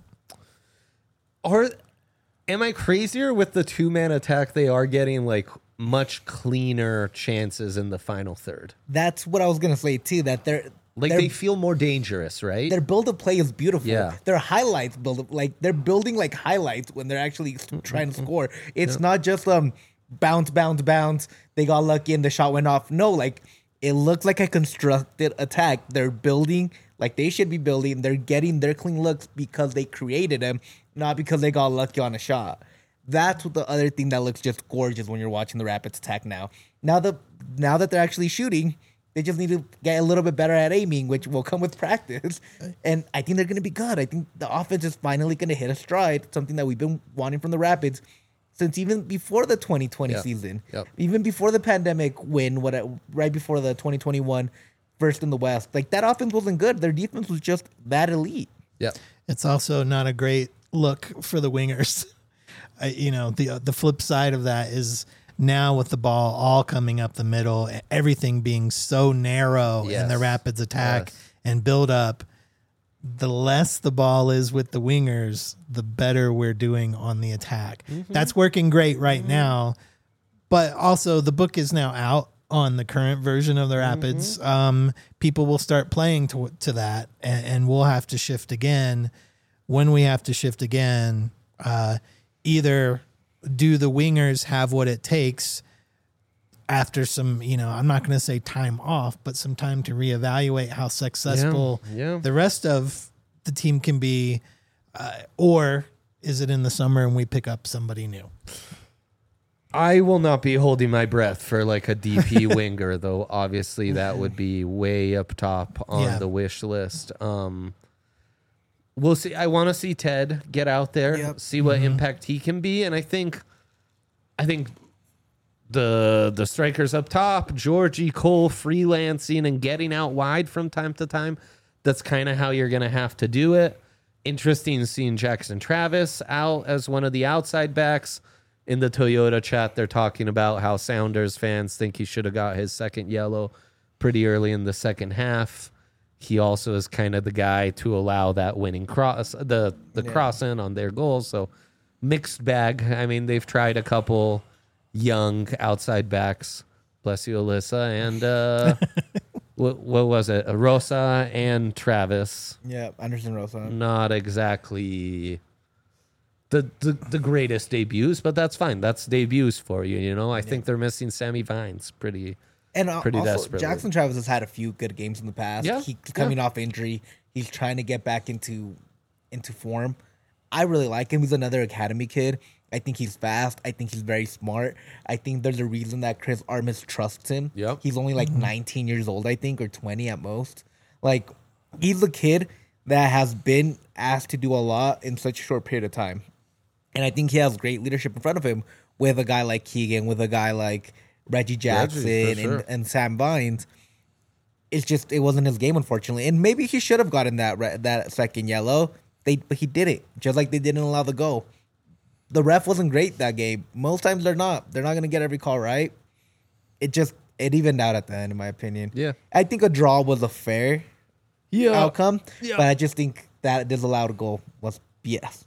Speaker 1: Or am I crazier with the two-man attack? They are getting like much cleaner chances in the final third.
Speaker 2: That's what I was gonna say too. That they're
Speaker 1: Like
Speaker 2: they're,
Speaker 1: they feel more dangerous, right?
Speaker 2: their build up play is beautiful.
Speaker 1: Yeah.
Speaker 2: Their highlights build up like they're building like highlights when they're actually s- trying to score. It's not just um bounce, bounce, bounce. They got lucky and the shot went off. No, like it looks like a constructed attack. They're building like they should be building. They're getting their clean looks because they created them, not because they got lucky on a shot. That's what the other thing that looks just gorgeous when you're watching the Rapids attack now. Now that now that they're actually shooting, they just need to get a little bit better at aiming, which will come with practice. And I think they're going to be good. I think the offense is finally going to hit a stride, something that we've been wanting from the Rapids since even before the twenty twenty
Speaker 1: Yeah.
Speaker 2: season,
Speaker 1: Yep.
Speaker 2: even before the pandemic win, what right before the twenty twenty-one first in the West. Like that offense wasn't good. Their defense was just that elite.
Speaker 1: yeah.
Speaker 3: It's also not a great look for the wingers. I, you know, the the flip side of that is now with the ball all coming up the middle, everything being so narrow in the
Speaker 1: Yes.
Speaker 3: Rapids attack
Speaker 1: Yes.
Speaker 3: and build up, the less the ball is with the wingers, the better we're doing on the attack.
Speaker 1: Mm-hmm.
Speaker 3: That's working great right now, but also the book is now out on the current version of the Rapids.
Speaker 1: Mm-hmm.
Speaker 3: Um, people will start playing to to that, and, and we'll have to shift again. When we have to shift again, uh, either do the wingers have what it takes after some, you know, I'm not going to say time off, but some time to reevaluate how successful
Speaker 1: yeah.
Speaker 3: the rest of the team can be, uh, or is it in the summer and we pick up somebody new?
Speaker 1: I will not be holding my breath for like a D P winger, though. Obviously, that would be way up top on
Speaker 3: Yeah.
Speaker 1: the wish list. Um, we'll see. I want to see Ted get out there,
Speaker 2: Yep.
Speaker 1: see what impact he can be, and I think, I think the the strikers up top, Georgie Cole freelancing and getting out wide from time to time. That's kind of how you're gonna have to do it. Interesting seeing Jackson Travis out as one of the outside backs. In the Toyota chat, they're talking about how Sounders fans think he should have got his second yellow pretty early in the second half. He also is kind of the guy to allow that winning cross, the the cross in on their goals. So mixed bag. I mean, they've tried a couple young outside backs. Bless you, Alyssa, and uh, what, what was it? Rosa and Travis.
Speaker 2: Yeah, Anderson Rosa.
Speaker 1: Not exactly the, the the greatest debuts, but that's fine. That's debuts for you, you know. I think they're missing Sammy Vines pretty.
Speaker 2: And uh,
Speaker 1: Pretty
Speaker 2: also,
Speaker 1: desperately.
Speaker 2: Jackson Travis has had a few good games in the past.
Speaker 1: Yeah,
Speaker 2: He's
Speaker 1: yeah.
Speaker 2: coming off injury. He's trying to get back into into form. I really like him. He's another academy kid. I think he's fast. I think he's very smart. I think there's a reason that Chris Armas trusts him.
Speaker 1: Yep.
Speaker 2: He's only like nineteen years old, I think, or twenty at most. Like, he's a kid that has been asked to do a lot in such a short period of time. And I think he has great leadership in front of him with a guy like Keegan, with a guy like Reggie Jackson
Speaker 1: Reggie, for sure.
Speaker 2: and, and Sam Vines. It's just, it wasn't his game, unfortunately. And maybe he should have gotten that re- that second yellow. They, but he didn't, just like they didn't allow the goal. The ref wasn't great that game. Most times they're not. They're not going to get every call right. It just, it evened out at the end, in my opinion.
Speaker 1: Yeah.
Speaker 2: I think a draw was a fair
Speaker 1: Yeah.
Speaker 2: outcome,
Speaker 1: Yeah.
Speaker 2: but I just think that disallowed goal was B S.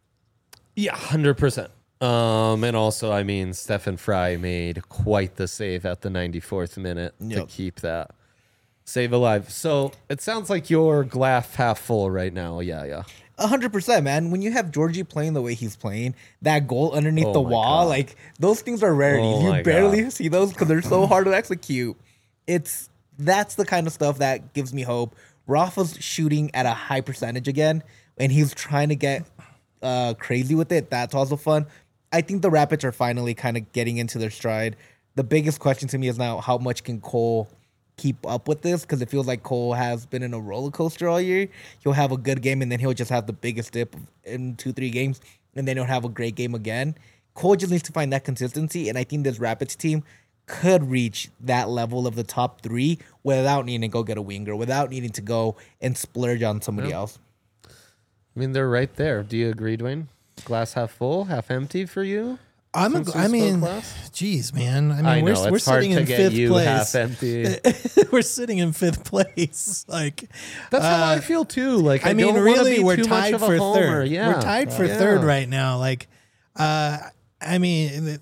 Speaker 1: Yeah, one hundred percent. Um, and also, I mean, Stephen Fry made quite the save at the ninety-fourth minute to
Speaker 2: Yep.
Speaker 1: keep that save alive. So it sounds like you're glass half full right now. Yeah, yeah.
Speaker 2: A hundred percent, man. When you have Georgie playing the way he's playing, that goal underneath
Speaker 1: Oh
Speaker 2: the
Speaker 1: my
Speaker 2: wall,
Speaker 1: God.
Speaker 2: like those things are rarities.
Speaker 1: Oh my
Speaker 2: you barely
Speaker 1: God.
Speaker 2: see those because they're so hard to execute. It's that's the kind of stuff that gives me hope. Rafa's shooting at a high percentage again, and he's trying to get uh, crazy with it. That's also fun. I think the Rapids are finally kind of getting into their stride. The biggest question to me is now how much can Cole keep up with this, because it feels like Cole has been in a roller coaster all year. He'll have a good game and then he'll just have the biggest dip in two, three games, and then he'll have a great game again. Cole just needs to find that consistency, and I think this Rapids team could reach that level of the top three without needing to go get a winger, without needing to go and splurge on somebody
Speaker 1: Yep.
Speaker 2: else.
Speaker 1: I mean, they're right there. Do you agree, Dwayne? Glass half full, half empty for you?
Speaker 3: I'm. A,
Speaker 1: Since we
Speaker 3: I
Speaker 1: spoke
Speaker 3: mean,
Speaker 1: last?
Speaker 3: geez, man. I mean,
Speaker 1: I
Speaker 3: we're
Speaker 1: know
Speaker 3: we're
Speaker 1: it's hard
Speaker 3: sitting
Speaker 1: to
Speaker 3: in
Speaker 1: get
Speaker 3: fifth
Speaker 1: you
Speaker 3: place.
Speaker 1: half empty.
Speaker 3: We're sitting in fifth place. Like
Speaker 1: That's how
Speaker 3: uh,
Speaker 1: I feel too. Like I,
Speaker 3: I mean,
Speaker 1: don't wanna
Speaker 3: really,
Speaker 1: be
Speaker 3: we're
Speaker 1: too much
Speaker 3: tied
Speaker 1: of a
Speaker 3: for
Speaker 1: homer.
Speaker 3: third.
Speaker 1: Yeah,
Speaker 3: We're tied for
Speaker 1: Yeah.
Speaker 3: third right now. Like, uh, I mean,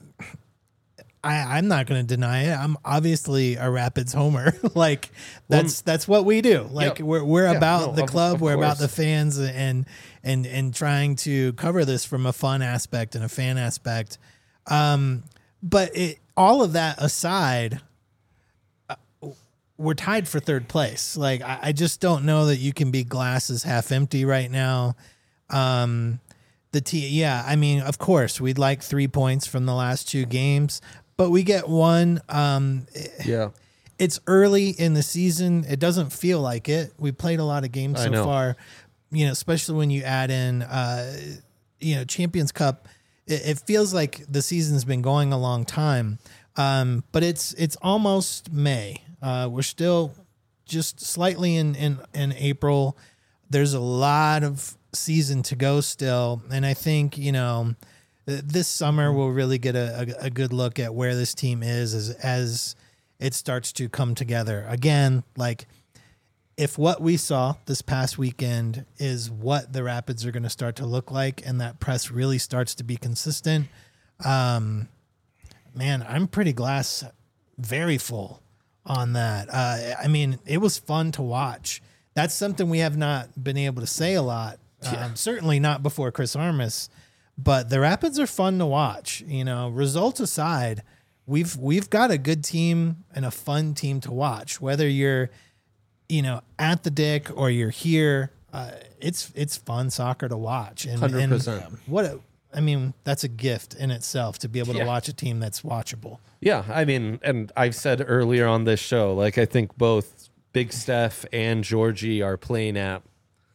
Speaker 3: I, I'm not going to deny it. I'm obviously a Rapids homer. Like that's that's what we do. Like
Speaker 1: Yeah.
Speaker 3: we're we're
Speaker 1: Yeah,
Speaker 3: about
Speaker 1: no,
Speaker 3: the
Speaker 1: of-
Speaker 3: club.
Speaker 1: of
Speaker 3: we're about
Speaker 1: course.
Speaker 3: the fans and and and trying to cover this from a fun aspect and a fan aspect. Um, but it, all of that aside, uh, we're tied for third place. Like I, I just don't know that you can be glasses half empty right now. Um, the t yeah, I mean, of course, we'd like three points from the last two games, but we get one. Um,
Speaker 1: Yeah.
Speaker 3: it's early in the season. It doesn't feel like it. We played a lot of games
Speaker 1: I
Speaker 3: so
Speaker 1: know.
Speaker 3: far, you know, especially when you add in, uh, you know, Champions Cup. It, it feels like the season's been going a long time, um, but it's it's almost May. Uh, we're still just slightly in, in, in April. There's a lot of season to go still, and I think, you know, th- this summer we'll really get a, a, a good look at where this team is as as it starts to come together again. Like if what we saw this past weekend is what the Rapids are going to start to look like, and that press really starts to be consistent, um, man, I'm pretty glass very full on that. Uh, I mean, it was fun to watch. That's something we have not been able to say a lot. Um, certainly not before Chris Armas, but the Rapids are fun to watch. You know, results aside, we've we've got a good team and a fun team to watch. Whether you're, you know, at the Dick or you're here, uh, it's it's fun soccer to watch. And,
Speaker 1: one hundred
Speaker 3: and
Speaker 1: percent.
Speaker 3: what a, I mean, that's a gift in itself to be able to
Speaker 1: Yeah.
Speaker 3: watch a team that's watchable.
Speaker 1: Yeah, I mean, and I've said earlier on this show, like I think both Big Steph and Georgie are playing at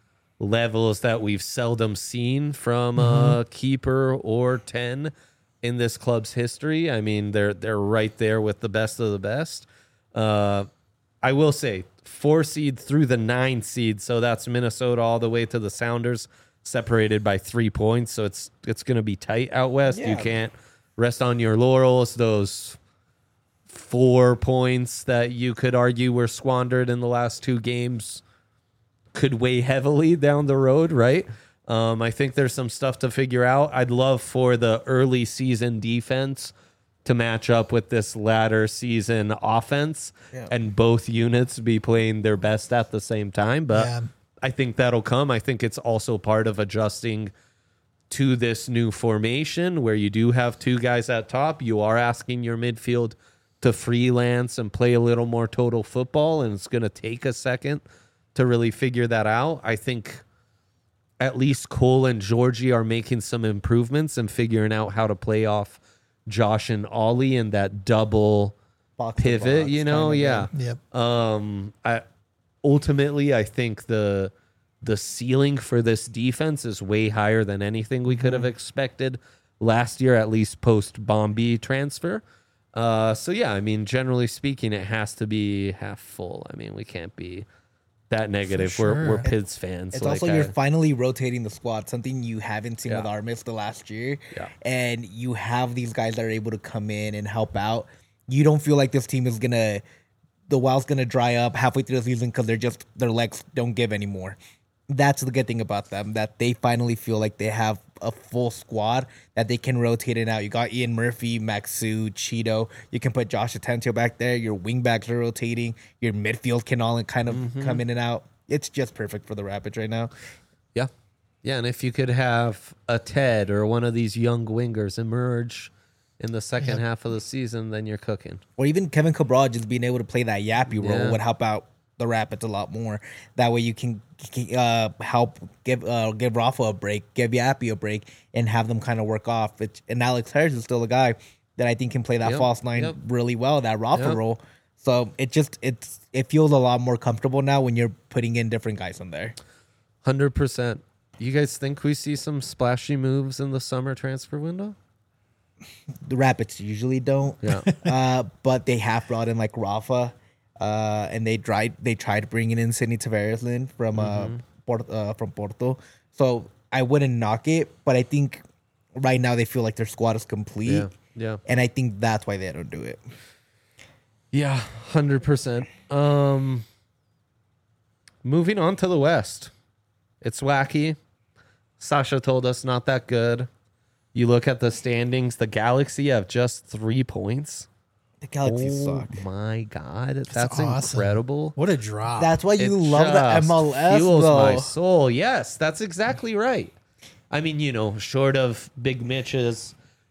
Speaker 1: levels that we've seldom seen from a keeper or ten in this club's history. I mean, they're they're right there with the best of the best. Uh, I will say four seed through the nine seed, so that's Minnesota all the way to the Sounders, separated by three points. So it's it's going to be tight out west. You
Speaker 2: Yeah.
Speaker 1: can't rest on your laurels. Those four points that you could argue were squandered in the last two games could weigh heavily down the road, right? Um, I think there's some stuff to figure out. I'd love for the early season defense to match up with this latter season offense,
Speaker 2: Yeah.
Speaker 1: and both units be playing their best at the same time. But
Speaker 3: Yeah.
Speaker 1: I think that'll come. I think it's also part of adjusting to this new formation where you do have two guys at top. You are asking your midfield to freelance and play a little more total football, and it's going to take a second to really figure that out. I think at least Cole and Georgie are making some improvements and figuring out how to play off Josh and Ollie in that double
Speaker 2: Box to
Speaker 1: pivot,
Speaker 2: box
Speaker 1: you know?
Speaker 2: kinda
Speaker 1: Yeah.
Speaker 2: game.
Speaker 3: Yep.
Speaker 1: Um, I ultimately I think the the ceiling for this defense is way higher than anything we could have expected last year, at least post Bombi transfer. Uh, so yeah, I mean, generally speaking, it has to be half full. I mean, we can't be that negative.
Speaker 3: sure.
Speaker 1: We're we're Pids fans.
Speaker 2: It's
Speaker 1: like
Speaker 2: also you're
Speaker 1: I-
Speaker 2: finally rotating the squad, something you haven't seen
Speaker 1: Yeah.
Speaker 2: with Armis the last year.
Speaker 1: Yeah.
Speaker 2: And you have these guys that are able to come in and help out. You don't feel like this team is gonna, the well's gonna dry up halfway through the season because they're just their legs don't give anymore. That's the good thing about them, that they finally feel like they have a full squad that they can rotate it out. You got Ian Murphy, Maxu, Cheeto. You can put Josh Atencio back there. Your wingbacks are rotating. Your midfield can all kind of
Speaker 1: Mm-hmm.
Speaker 2: come in and out. It's just perfect for the Rapids right now.
Speaker 1: Yeah. Yeah, and if you could have a Ted or one of these young wingers emerge in the second
Speaker 3: Yep.
Speaker 1: half of the season, then you're cooking.
Speaker 2: Or even Kevin Cabral just being able to play that yappy role
Speaker 1: Yeah.
Speaker 2: would help out the Rapids a lot more. That way you can uh, help give uh, give Rafa a break, give Yappy a break, and have them kind of work off. It, and Alex Harris is still a guy that I think can play that
Speaker 1: Yep,
Speaker 2: false nine
Speaker 1: yep.
Speaker 2: really well, that Rafa
Speaker 1: Yep.
Speaker 2: role. So it just it's it feels a lot more comfortable now when you're putting in different guys in there.
Speaker 1: one hundred percent. You guys think we see some splashy moves in the summer transfer window?
Speaker 2: The Rapids usually don't.
Speaker 1: Yeah.
Speaker 2: uh, but they have brought in like Rafa, uh, and they tried they tried bringing in Sidney Tavares in from uh, Port, uh from Porto. So I wouldn't knock it, but I think right now they feel like their squad is complete.
Speaker 1: Yeah. Yeah.
Speaker 2: And I think that's why they don't do it.
Speaker 1: Yeah, one hundred percent. Um, moving on to the West. It's wacky. Sasha told us not that good. You look at the standings, the Galaxy have just three points.
Speaker 2: The Galaxy
Speaker 1: Oh
Speaker 2: suck.
Speaker 1: my God. That's,
Speaker 3: awesome.
Speaker 1: incredible.
Speaker 3: What a drop.
Speaker 2: That's why you
Speaker 1: It
Speaker 2: love the
Speaker 1: just
Speaker 2: M L S
Speaker 1: fuels
Speaker 2: though.
Speaker 1: my soul. Yes, that's exactly right. I mean, you know, short of Big Mitch's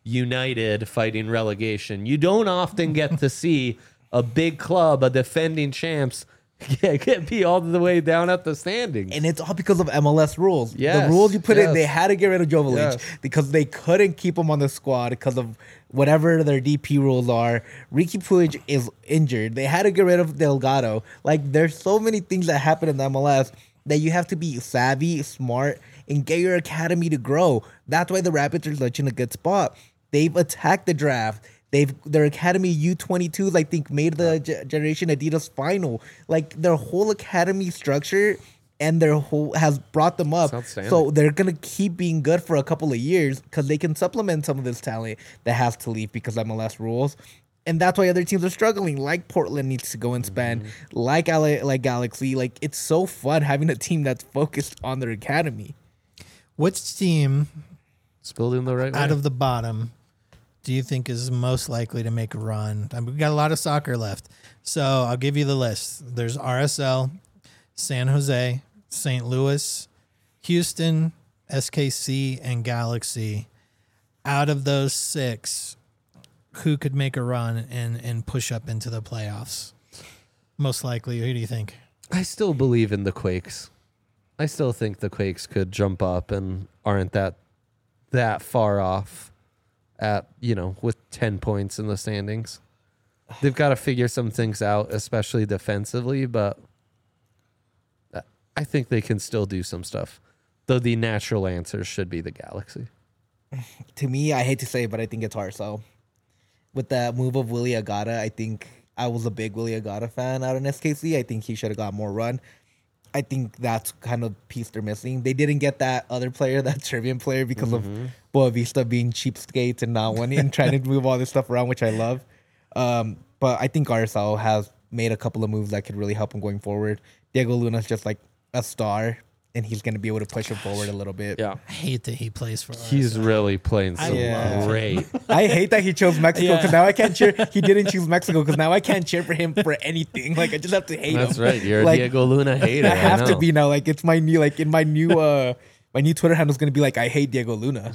Speaker 1: United fighting relegation, you don't often get to see a big club, a defending champs, get, get be all the way down at the standings.
Speaker 2: And it's all because of M L S rules.
Speaker 1: Yes,
Speaker 2: The rules you put
Speaker 1: yes.
Speaker 2: in, they had to get rid of Jovic
Speaker 1: Yes.
Speaker 2: because they couldn't keep him on the squad because of whatever their D P rules are. Ricky Puig is injured. They had to get rid of Delgado. Like, there's so many things that happen in the M L S that you have to be savvy, smart, and get your academy to grow. That's why the Rapids are such in a good spot. They've attacked the draft. They've their academy U twenty-twos, I think, made the G- Generation Adidas final. Like, their whole academy structure and their whole has brought them up.
Speaker 1: That's outstanding.
Speaker 2: So they're gonna keep being good for a couple of years because they can supplement some of this talent that has to leave because of M L S rules. And that's why other teams are struggling. Like Portland needs to go and spend.
Speaker 1: Mm-hmm.
Speaker 2: Like L A, like Galaxy. Like, it's so fun having a team that's focused on their academy.
Speaker 3: Which team
Speaker 1: It's building the right way.
Speaker 3: out of the bottom do you think is most likely to make a run? I mean, we've got a lot of soccer left. So I'll give you the list. There's R S L, San Jose, Saint Louis, Houston, S K C, and Galaxy. Out of those six, who could make a run and, and push up into the playoffs? Most likely, who do you think?
Speaker 1: I still believe in the Quakes. I still think the Quakes could jump up and aren't that that far off at, you know, with ten points in the standings. They've got to figure some things out, especially defensively, but I think they can still do some stuff. Though the natural answer should be the Galaxy.
Speaker 2: To me, I hate to say it, but I think it's R S L. With the move of Willie Agata, I think I was a big Willie Agata fan out in S K C. I think he should have got more run. I think that's kind of the piece they're missing. They didn't get that other player, that Serbian player, because
Speaker 1: Mm-hmm.
Speaker 2: of Boavista being cheapskates and not wanting and trying to move all this stuff around, which I love. Um, but I think R S L has made a couple of moves that could really help him going forward. Diego Luna's just like a star, and he's going to be able to push him forward a little bit.
Speaker 1: Yeah.
Speaker 3: I hate that he plays for
Speaker 1: He's really playing
Speaker 3: I
Speaker 1: some
Speaker 2: love
Speaker 1: great.
Speaker 2: I hate that he chose Mexico because
Speaker 3: Yeah.
Speaker 2: now I can't cheer. He didn't choose Mexico because now I can't cheer for him for anything. Like, I just have to hate
Speaker 1: That's
Speaker 2: him.
Speaker 1: right. You're
Speaker 2: Like,
Speaker 1: a Diego Luna hater.
Speaker 2: I have to
Speaker 1: know.
Speaker 2: be now. Like, it's my new, like in my new, uh, my new Twitter handle is gonna be like, I hate Diego Luna.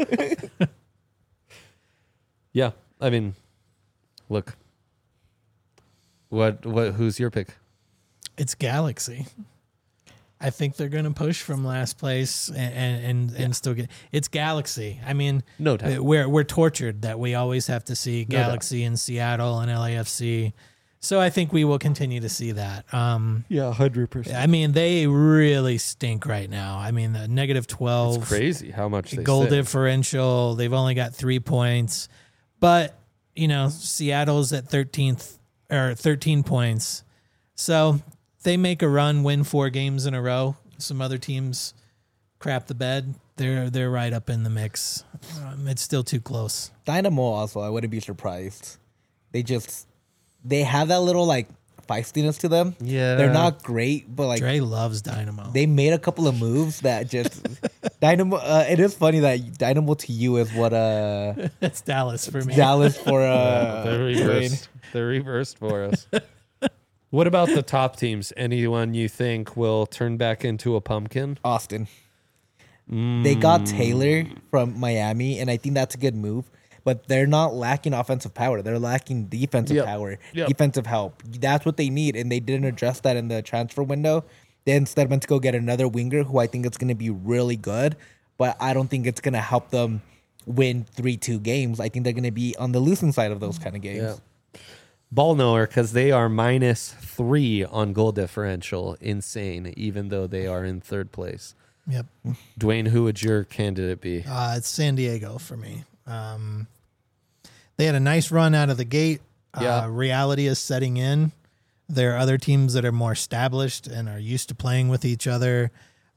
Speaker 1: Yeah. I mean, look. What? What? Who's your pick?
Speaker 3: It's Galaxy. I think they're going to push from last place and and, and, and still get. It's Galaxy. I mean,
Speaker 1: No doubt.
Speaker 3: we're we're tortured that we always have to see
Speaker 1: No doubt.
Speaker 3: Galaxy in Seattle and L A F C. So I think we will continue to see that. Um,
Speaker 1: Yeah, hundred percent.
Speaker 3: I mean, they really stink right now. I mean, the negative twelve
Speaker 1: It's crazy how much they
Speaker 3: goal
Speaker 1: sit.
Speaker 3: differential. They've only got three points, but you know, Seattle's at thirteenth or thirteen points. So they make a run, win four games in a row. Some other teams crap the bed. They're they're right up in the mix. Um, it's still too close.
Speaker 2: Dynamo also, I wouldn't be surprised. They just, they have that little like feistiness to them.
Speaker 1: Yeah.
Speaker 2: They're not great, but like
Speaker 3: Dre loves Dynamo.
Speaker 2: they made a couple of moves that just Dynamo. Uh, it is funny that Dynamo to you is what uh
Speaker 3: That's Dallas for me.
Speaker 2: Dallas for uh
Speaker 1: They're
Speaker 2: Dwayne.
Speaker 1: reversed. They're reversed for us. What about the top teams? Anyone you think will turn back into a pumpkin?
Speaker 2: Austin. They got Taylor from Miami, and I think that's a good move. but they're not lacking offensive power. They're lacking defensive
Speaker 1: Yep.
Speaker 2: power,
Speaker 1: Yep.
Speaker 2: defensive help. That's what they need, and they didn't address that in the transfer window. They instead went to go get another winger who I think it's going to be really good, but I don't think it's going to help them win three two games. I think they're going to be on the losing side of those kind of games.
Speaker 1: Yeah. Ball knower, because they are minus three on goal differential. Insane, even though they are in third place.
Speaker 3: Yep.
Speaker 1: Dwayne, who would your candidate be?
Speaker 3: Uh, it's San Diego for me. Um, they had a nice run out of the gate.
Speaker 1: Yeah.
Speaker 3: Uh, reality is setting in. There are other teams that are more established and are used to playing with each other.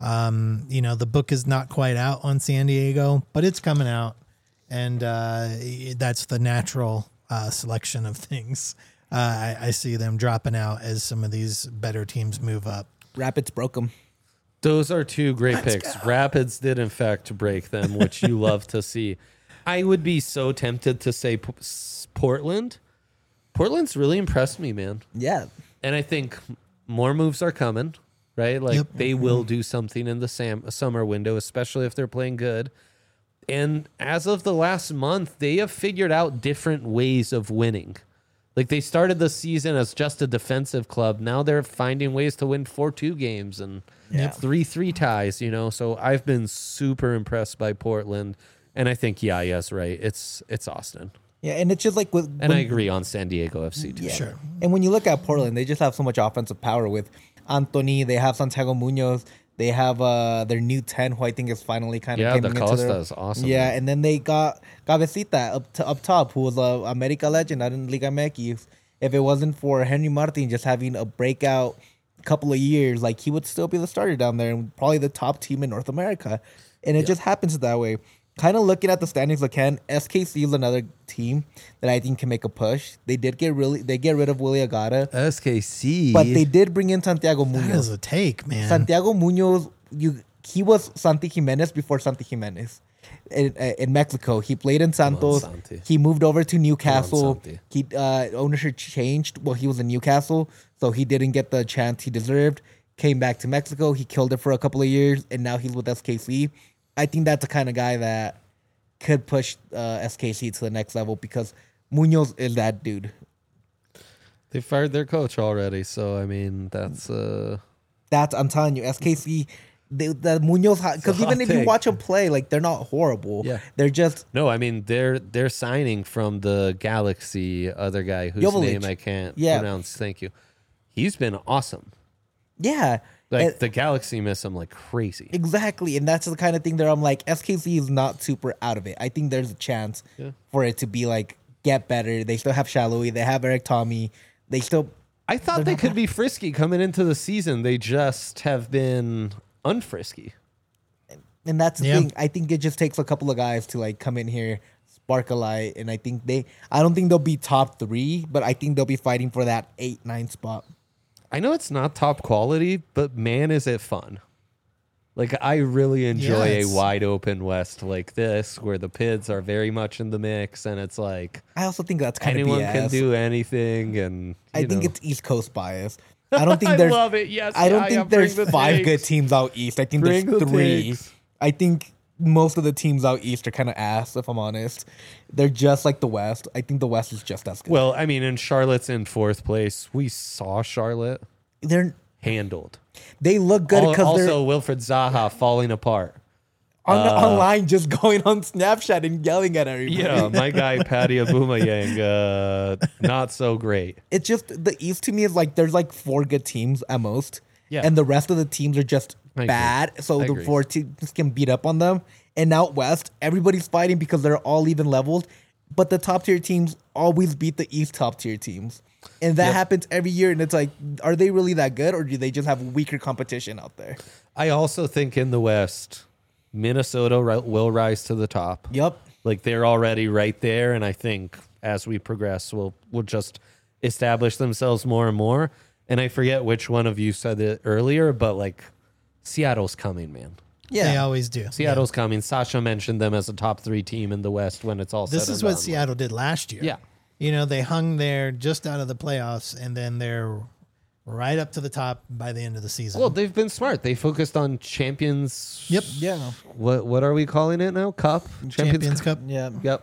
Speaker 3: Um, you know, the book is not quite out on San Diego, but it's coming out. And uh, that's the natural uh, selection of things. Uh, I, I see them dropping out as some of these better teams move up.
Speaker 2: Rapids broke them.
Speaker 1: Those are two great picks. Rapids did, in fact, break them, which you love to see. I would be so tempted to say P- S- Portland. Portland's really impressed me, man.
Speaker 2: Yeah.
Speaker 1: And I think more moves are coming, right? Like
Speaker 3: Yep.
Speaker 1: they will do something in the sam- summer window, especially if they're playing good. And as of the last month, they have figured out different ways of winning. Like they started the season as just a defensive club. Now they're finding ways to win four two games and
Speaker 2: Yeah.
Speaker 1: three three ties, you know? So I've been super impressed by Portland. And I think, yeah, yes, right. It's it's Austin.
Speaker 2: Yeah, and it's just like with
Speaker 1: And
Speaker 2: when-
Speaker 1: I agree on San Diego F C too.
Speaker 2: Yeah.
Speaker 3: Sure.
Speaker 2: And when you look at Portland, they just have so much offensive power with Anthony. They have Santiago Munoz. They have uh, their new ten, who I think is finally kind of
Speaker 1: Yeah,
Speaker 2: coming
Speaker 1: Da
Speaker 2: into their-
Speaker 1: Costa is awesome.
Speaker 2: Yeah, and then they got Cabecita up to, up top, who was a America legend out in Liga M X. If it wasn't for Henry Martin just having a breakout couple of years, like he would still be the starter down there and probably the top team in North America. And it just happens that way. Kind of looking at the standings again, S K C is another team that I think can make a push. They did get really they get rid of Willie Agata,
Speaker 1: S K C.
Speaker 2: but they did bring in Santiago
Speaker 3: That is
Speaker 2: Munoz.
Speaker 3: a take, man.
Speaker 2: Santiago Munoz, you he was Santi Jimenez before Santi Jimenez. In, uh, in Mexico, he played in Santos.
Speaker 1: Santi.
Speaker 2: He moved over to Newcastle.
Speaker 1: Santi.
Speaker 2: He uh, ownership changed. Well, he was in Newcastle, so he didn't get the chance he deserved. Came back to Mexico. He killed it for a couple of years, and now he's with S K C. I think that's the kind of guy that could push uh, S K C to the next level because Munoz is that dude.
Speaker 1: They fired their coach already, so I mean that's uh
Speaker 2: That's I'm telling you, S K C. They, the Munoz, because
Speaker 1: a hot
Speaker 2: even if you
Speaker 1: take.
Speaker 2: watch them play, like they're not horrible.
Speaker 1: Yeah.
Speaker 2: They're just
Speaker 1: no, I mean they're they're signing from the Galaxy other guy whose
Speaker 2: Jovic.
Speaker 1: name I can't
Speaker 2: Yeah.
Speaker 1: pronounce. Thank you. He's been awesome.
Speaker 2: yeah.
Speaker 1: Like
Speaker 2: And-
Speaker 1: the Galaxy miss him like crazy.
Speaker 2: Exactly, and that's the kind of thing that I'm like, S K C is not super out of it. I think there's a chance
Speaker 1: Yeah.
Speaker 2: for it to be like get better. They still have Shaloi, they have Eric Tommy, they still
Speaker 1: I thought they could be frisky coming into the season. They just have been unfrisky.
Speaker 2: and that's the
Speaker 3: Yeah.
Speaker 2: thing. I think it just takes a couple of guys to like come in here, spark a light, and I think they I don't think they'll be top three, but I think they'll be fighting for that eight, nine spot.
Speaker 1: I know it's not top quality, but man, is it fun. Like, I really enjoy
Speaker 3: Yeah,
Speaker 1: a
Speaker 3: it's-
Speaker 1: wide open West like this, where the Pids are very much in the mix, and it's like
Speaker 2: I also think that's kind
Speaker 1: anyone
Speaker 2: of B S.
Speaker 1: can do anything. And
Speaker 2: I
Speaker 1: you
Speaker 2: think
Speaker 1: know.
Speaker 2: it's East Coast bias. I don't think
Speaker 1: I
Speaker 2: there's
Speaker 1: love it. Yes,
Speaker 2: I don't
Speaker 1: yeah, yeah,
Speaker 2: think there's
Speaker 1: bring the
Speaker 2: five
Speaker 1: takes.
Speaker 2: good teams out east. I think
Speaker 1: Bring
Speaker 2: there's
Speaker 1: the
Speaker 2: three.
Speaker 1: takes.
Speaker 2: I think most of the teams out east are kind of ass, if I'm honest. They're just like the West. I think the West is just as good.
Speaker 1: Well, I mean, and Charlotte's in fourth place. We saw Charlotte
Speaker 2: they're
Speaker 1: handled.
Speaker 2: they look good
Speaker 1: Al-
Speaker 2: because they're
Speaker 1: also, Wilfred Zaha falling apart.
Speaker 2: on
Speaker 1: uh,
Speaker 2: online just going on Snapchat and yelling at everybody.
Speaker 1: Yeah, my guy Patty Abumayang, uh, not so great.
Speaker 2: It's just the East to me is like there's like four good teams at most.
Speaker 1: Yeah.
Speaker 2: And the rest of the teams are just
Speaker 1: I agree.
Speaker 2: bad. So
Speaker 1: I
Speaker 2: the
Speaker 1: agree.
Speaker 2: four teams can beat up on them. And out west, everybody's fighting because they're all even leveled. But the top tier teams always beat the East top tier teams. And that
Speaker 1: Yep.
Speaker 2: happens every year. And it's like, are they really that good or do they just have weaker competition out there?
Speaker 1: I also think in the West, Minnesota ri- will rise to the top.
Speaker 2: Yep.
Speaker 1: Like they're already right there, and I think as we progress, we'll we'll just establish themselves more and more. And I forget which one of you said it earlier, but like Seattle's coming, man.
Speaker 2: Yeah.
Speaker 3: They always do.
Speaker 1: Seattle's coming. Sasha mentioned them as a top three team in the West when it's all
Speaker 3: This
Speaker 1: said
Speaker 3: is
Speaker 1: and
Speaker 3: what
Speaker 1: done.
Speaker 3: Seattle did last year.
Speaker 1: Yeah.
Speaker 3: You know, they hung there just out of the playoffs, and then they're right up to the top by the end of the season.
Speaker 1: Well, they've been smart. They focused on champions.
Speaker 3: Yep.
Speaker 2: Yeah.
Speaker 1: What what are we calling it now? Cup.
Speaker 3: Champions Cup.
Speaker 2: Yeah.
Speaker 1: Yep.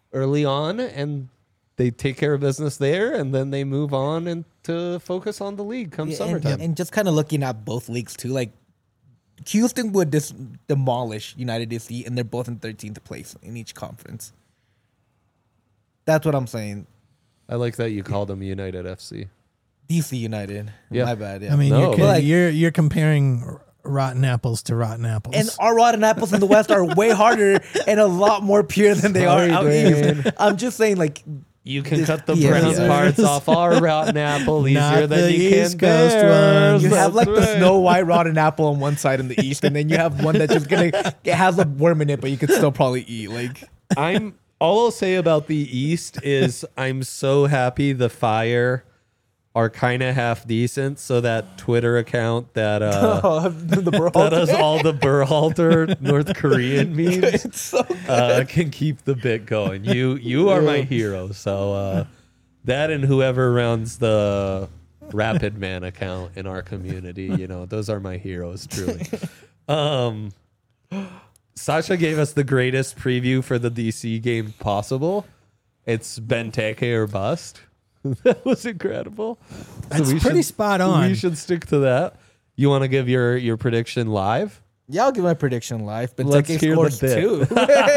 Speaker 1: early on, and they take care of business there, and then they move on and to focus on the league come
Speaker 2: Yeah, and,
Speaker 1: summertime.
Speaker 2: and just kind of looking at both leagues too, like Houston would dis- demolish United D C, and they're both in thirteenth place in each conference. That's what I'm saying.
Speaker 1: I like that you called them United F C.
Speaker 2: D C United.
Speaker 1: Yeah.
Speaker 2: My bad. Yeah.
Speaker 3: I mean,
Speaker 1: No.
Speaker 3: you're,
Speaker 1: But,
Speaker 3: co-
Speaker 2: like-
Speaker 3: you're you're comparing rotten apples to rotten apples.
Speaker 2: and our rotten apples in the West are way harder and a lot more pure than they
Speaker 1: Sorry,
Speaker 2: are out
Speaker 1: Dwayne.
Speaker 2: east. I'm just saying, like,
Speaker 1: You can
Speaker 2: This-
Speaker 1: cut the
Speaker 2: yeah,
Speaker 1: brown
Speaker 2: yeah.
Speaker 1: parts off our rotten apple easier
Speaker 3: Not
Speaker 1: than
Speaker 3: the
Speaker 1: you can
Speaker 3: East Coast
Speaker 1: theirs.
Speaker 3: one.
Speaker 2: you have like
Speaker 1: That's
Speaker 2: the
Speaker 1: right.
Speaker 2: Snow White rotten apple on one side in the east, and then you have one that's just gonna it has a worm in it, but you could still probably eat. Like,
Speaker 1: I'm all I'll say about the East is I'm so happy the Fire are kind of half decent. So that Twitter account that uh,
Speaker 2: the
Speaker 1: that does all the Berhalter North Korean memes
Speaker 2: it's so
Speaker 1: uh, can keep the bit going. You you are my hero. So uh, that and whoever runs the Rapid Man account in our community, you know, those are my heroes truly. Um, Sasha gave us the greatest preview for the D C game possible. It's Benteke or bust. That was incredible.
Speaker 3: That's
Speaker 1: we
Speaker 3: pretty
Speaker 1: should-
Speaker 3: spot on.
Speaker 1: We should stick to that. You want to give your your prediction live?
Speaker 2: Yeah, I'll give my prediction live. But
Speaker 1: Let's
Speaker 2: Benteke
Speaker 1: hear the
Speaker 2: scores
Speaker 1: bit.
Speaker 2: two.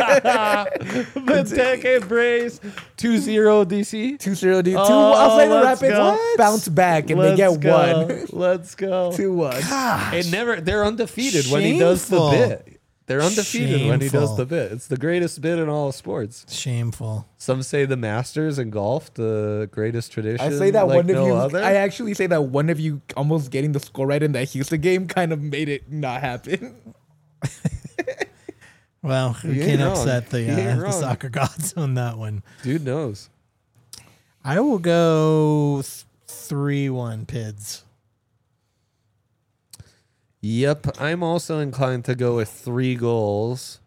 Speaker 1: Benteke brace two zero D C.
Speaker 2: two zero D. Two.
Speaker 1: Oh,
Speaker 2: I'll say the
Speaker 1: let's
Speaker 2: Rapids
Speaker 1: go.
Speaker 2: bounce back and they
Speaker 1: Let's
Speaker 2: get
Speaker 1: go.
Speaker 2: one.
Speaker 1: Let's go.
Speaker 2: two one.
Speaker 1: It never. They're undefeated when he does the
Speaker 3: Shameful.
Speaker 1: bit. They're undefeated when he does
Speaker 3: Shameful.
Speaker 1: the bit. It's the greatest bit in all of sports.
Speaker 3: Shameful.
Speaker 1: Some say the Masters in golf, the greatest tradition.
Speaker 2: I say that
Speaker 1: like
Speaker 2: one
Speaker 1: no
Speaker 2: of you.
Speaker 1: other.
Speaker 2: I actually say that one of you almost getting the score right in that Houston game kind of made it not happen.
Speaker 3: Well, we
Speaker 1: You ain't
Speaker 3: can't
Speaker 1: wrong.
Speaker 3: upset the,
Speaker 1: You ain't
Speaker 3: uh, the
Speaker 1: wrong.
Speaker 3: soccer gods on that one.
Speaker 1: Dude knows.
Speaker 3: I will go three one Pids.
Speaker 1: Yep, I'm also inclined to go with three goals.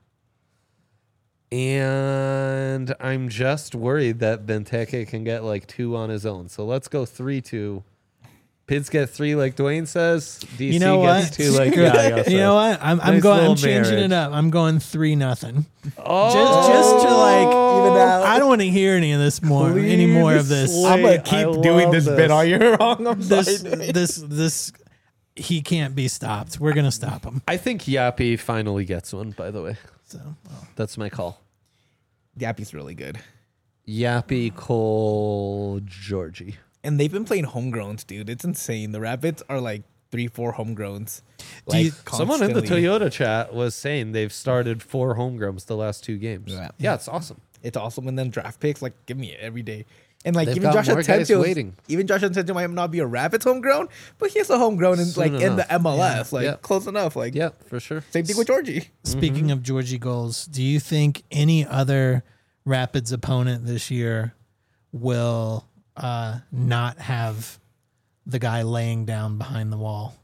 Speaker 1: And I'm just worried that Benteke can get like two on his own. So let's go three two. Pids get three like Dwayne says. D C
Speaker 3: You know
Speaker 1: gets
Speaker 3: what?
Speaker 1: two like Yayo says.
Speaker 3: You know what? I'm, I'm
Speaker 1: Nice
Speaker 3: going. I'm
Speaker 1: little
Speaker 3: changing
Speaker 1: marriage.
Speaker 3: it up. I'm going three nothing.
Speaker 1: Oh,
Speaker 3: Just, just to like,
Speaker 2: Even out.
Speaker 3: I don't want to hear any of this more, any more of this.
Speaker 1: Please.
Speaker 2: I'm gonna
Speaker 1: Wait,
Speaker 2: keep
Speaker 1: I
Speaker 2: doing
Speaker 1: love
Speaker 2: this
Speaker 1: this.
Speaker 2: bit all year long. I'm
Speaker 3: This,
Speaker 2: sorry.
Speaker 3: this, this. He can't be stopped. We're gonna stop him.
Speaker 1: I think Yappy finally gets one, by the way.
Speaker 3: So, well,
Speaker 1: That's my call.
Speaker 2: Yappy's really good.
Speaker 1: Yappy, Cole, Georgie.
Speaker 2: And they've been playing homegrowns, dude. It's insane. The Rapids are like three, four homegrowns.
Speaker 3: Do you-
Speaker 1: Someone in the
Speaker 2: constantly.
Speaker 1: Toyota chat was saying they've started four homegrowns the last two games.
Speaker 2: Yeah.
Speaker 1: Yeah, it's awesome.
Speaker 2: It's awesome. And then draft picks, like, give me it every day. And like
Speaker 1: They've
Speaker 2: even
Speaker 1: got
Speaker 2: Josh
Speaker 1: more guys
Speaker 2: Atencio,
Speaker 1: waiting.
Speaker 2: even Josh Atencio might not be a Rapids homegrown, but he's a homegrown in
Speaker 1: Soon
Speaker 2: like in
Speaker 1: enough.
Speaker 2: the M L S, like
Speaker 1: Yeah.
Speaker 2: close enough. Like
Speaker 1: Yeah, for sure.
Speaker 2: same thing with Georgie.
Speaker 3: speaking of Georgie goals, do you think any other Rapids opponent this year will uh, not have the guy laying down behind the wall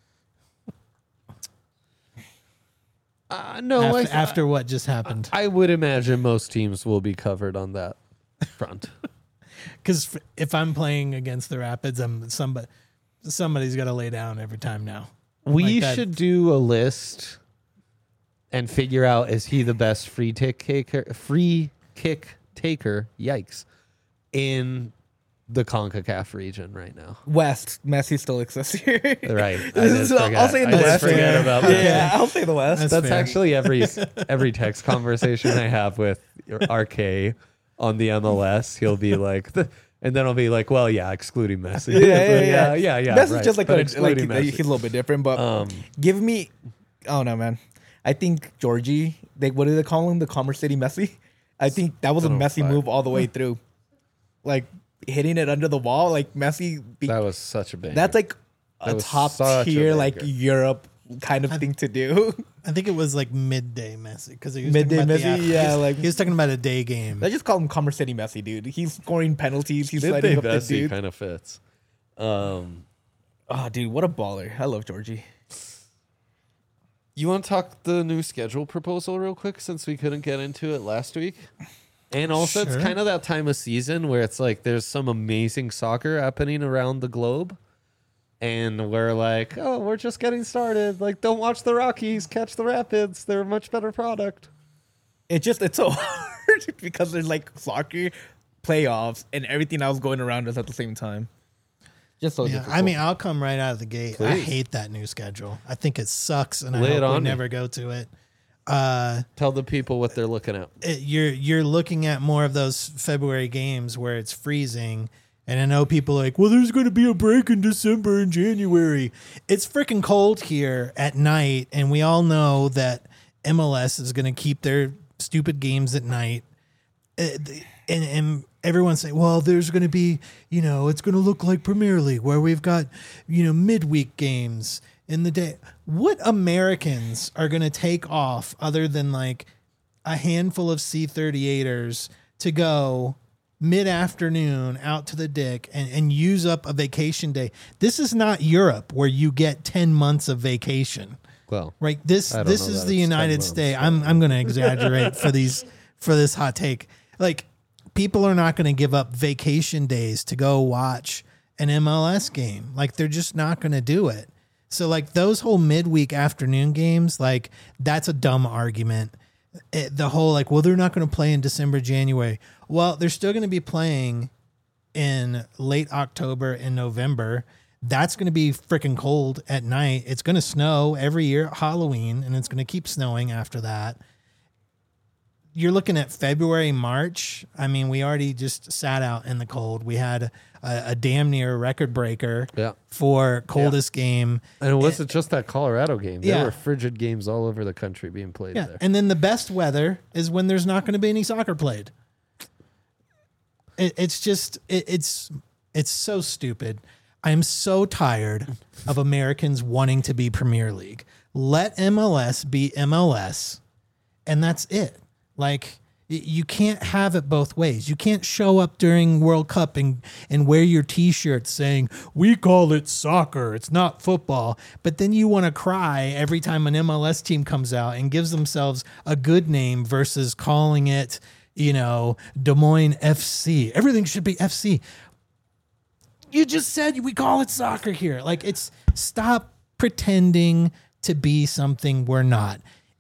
Speaker 1: Uh, no,
Speaker 3: after,
Speaker 1: I th-
Speaker 3: after what just happened?
Speaker 1: I would imagine most teams will be covered on that front.
Speaker 3: Because if I'm playing against the Rapids, I'm somebody somebody's got to lay down every time now.
Speaker 1: we
Speaker 3: Like that.
Speaker 1: should do a list and figure out is he the best free kick taker, free kick taker? Yikes! In the CONCACAF region right now.
Speaker 2: West, Messi still exists here.
Speaker 1: Right. I did
Speaker 2: So
Speaker 1: forget.
Speaker 2: I'll say in
Speaker 1: I
Speaker 2: the
Speaker 1: did
Speaker 2: West.
Speaker 1: forget
Speaker 3: yeah.
Speaker 1: about
Speaker 2: yeah,
Speaker 1: that.
Speaker 2: I'll say the West.
Speaker 3: That's
Speaker 1: That's
Speaker 3: fair.
Speaker 1: actually every every text conversation I have with R K on the M L S. He'll be like, the, and then I'll be like, well, yeah, excluding Messi.
Speaker 2: yeah, yeah, yeah,
Speaker 1: yeah, yeah. yeah
Speaker 2: Messi's
Speaker 1: right.
Speaker 2: just like
Speaker 1: But
Speaker 2: a, like
Speaker 1: excluding
Speaker 2: he's
Speaker 1: Messi.
Speaker 2: a little bit different, but
Speaker 1: Um,
Speaker 2: give me. Oh no, man. I think Georgie. They what do they call him? The Commerce City Messi. I think that was a
Speaker 1: Oh,
Speaker 2: Messi
Speaker 1: fuck.
Speaker 2: move all the way through, like hitting it under the wall. Like Messi. Be,
Speaker 1: that was such a bang.
Speaker 2: that's like
Speaker 1: That
Speaker 2: a
Speaker 1: was
Speaker 2: top
Speaker 1: such a
Speaker 2: tier, like
Speaker 1: banger.
Speaker 2: Europe kind of thing to do.
Speaker 3: I think it was like midday Messi because he was
Speaker 2: Midday
Speaker 3: talking about the
Speaker 2: Messi,
Speaker 3: af-
Speaker 2: yeah,
Speaker 3: he was,
Speaker 2: like-
Speaker 3: he was talking about a day game.
Speaker 2: I just call him Commerce City Messi, dude. He's scoring penalties. He's
Speaker 1: Midday
Speaker 2: setting up the
Speaker 1: Messi
Speaker 2: dude.
Speaker 1: kind of fits. Um,
Speaker 2: Oh, dude, what a baller! I love Georgie.
Speaker 1: you want to talk the new schedule proposal real quick since we couldn't get into it last week? And also, it's
Speaker 3: Sure.
Speaker 1: kind of that time of season where it's like there's some amazing soccer happening around the globe. And we're like, oh, we're just getting started. Like, don't watch the Rockies, catch the Rapids. They're a much better product.
Speaker 2: It just it's so hard because there's like soccer playoffs and everything else going around us at the same time. Just so
Speaker 3: Yeah,
Speaker 2: difficult.
Speaker 3: I mean, I'll come right out of the gate. I
Speaker 1: Please.
Speaker 3: hate that new schedule. I think it sucks, and
Speaker 1: Lay
Speaker 3: I
Speaker 1: it
Speaker 3: hope we
Speaker 1: on me.
Speaker 3: never go to it. Uh,
Speaker 1: Tell the people what they're looking at.
Speaker 3: it, you're you're looking at more of those February games where it's freezing, and I know people are like, well, there's going to be a break in December and January. It's freaking cold here at night, and we all know that M L S is going to keep their stupid games at night. Uh, the- and and everyone's saying, well, there's going to be, you know, it's going to look like Premier League where we've got, you know, midweek games in the day. What Americans are going to take off other than like a handful of C thirty-eighters to go mid-afternoon out to the dick and, and use up a vacation day? This is not Europe where you get ten months of vacation.
Speaker 1: Well,
Speaker 3: Right. This
Speaker 1: I don't
Speaker 3: this
Speaker 1: know
Speaker 3: is
Speaker 1: that
Speaker 3: the
Speaker 1: it's ten
Speaker 3: United
Speaker 1: months,
Speaker 3: States.
Speaker 1: but-
Speaker 3: I'm I'm going to exaggerate for these for this hot take. Like, people are not going to give up vacation days to go watch an M L S game. Like, they're just not going to do it. So like those whole midweek afternoon games, like that's a dumb argument. It, the whole like, well, they're not going to play in December, January. Well, they're still going to be playing in late October and November. That's going to be freaking cold at night. It's going to snow every year at Halloween, and it's going to keep snowing after that. You're looking at February, March. I mean, we already just sat out in the cold. We had a, a damn near record breaker
Speaker 1: Yeah.
Speaker 3: for coldest game.
Speaker 1: and it wasn't just that Colorado game. There
Speaker 3: Yeah.
Speaker 1: were frigid games all over the country being played
Speaker 3: Yeah,
Speaker 1: there.
Speaker 3: and then the best weather is when there's not going to be any soccer played. It, it's just it, it's it's so stupid. I'm so tired of Americans wanting to be Premier League. Let M L S be M L S, and that's it. Like, y- you can't have it both ways. You can't show up during World Cup and, and wear your T-shirt saying, we call it soccer, it's not football. But then you want to cry every time an M L S team comes out and gives themselves a good name versus calling it, you know, Des Moines F C. Everything should be F C. You just said we call it soccer here. Like, it's stop pretending to be something we're not.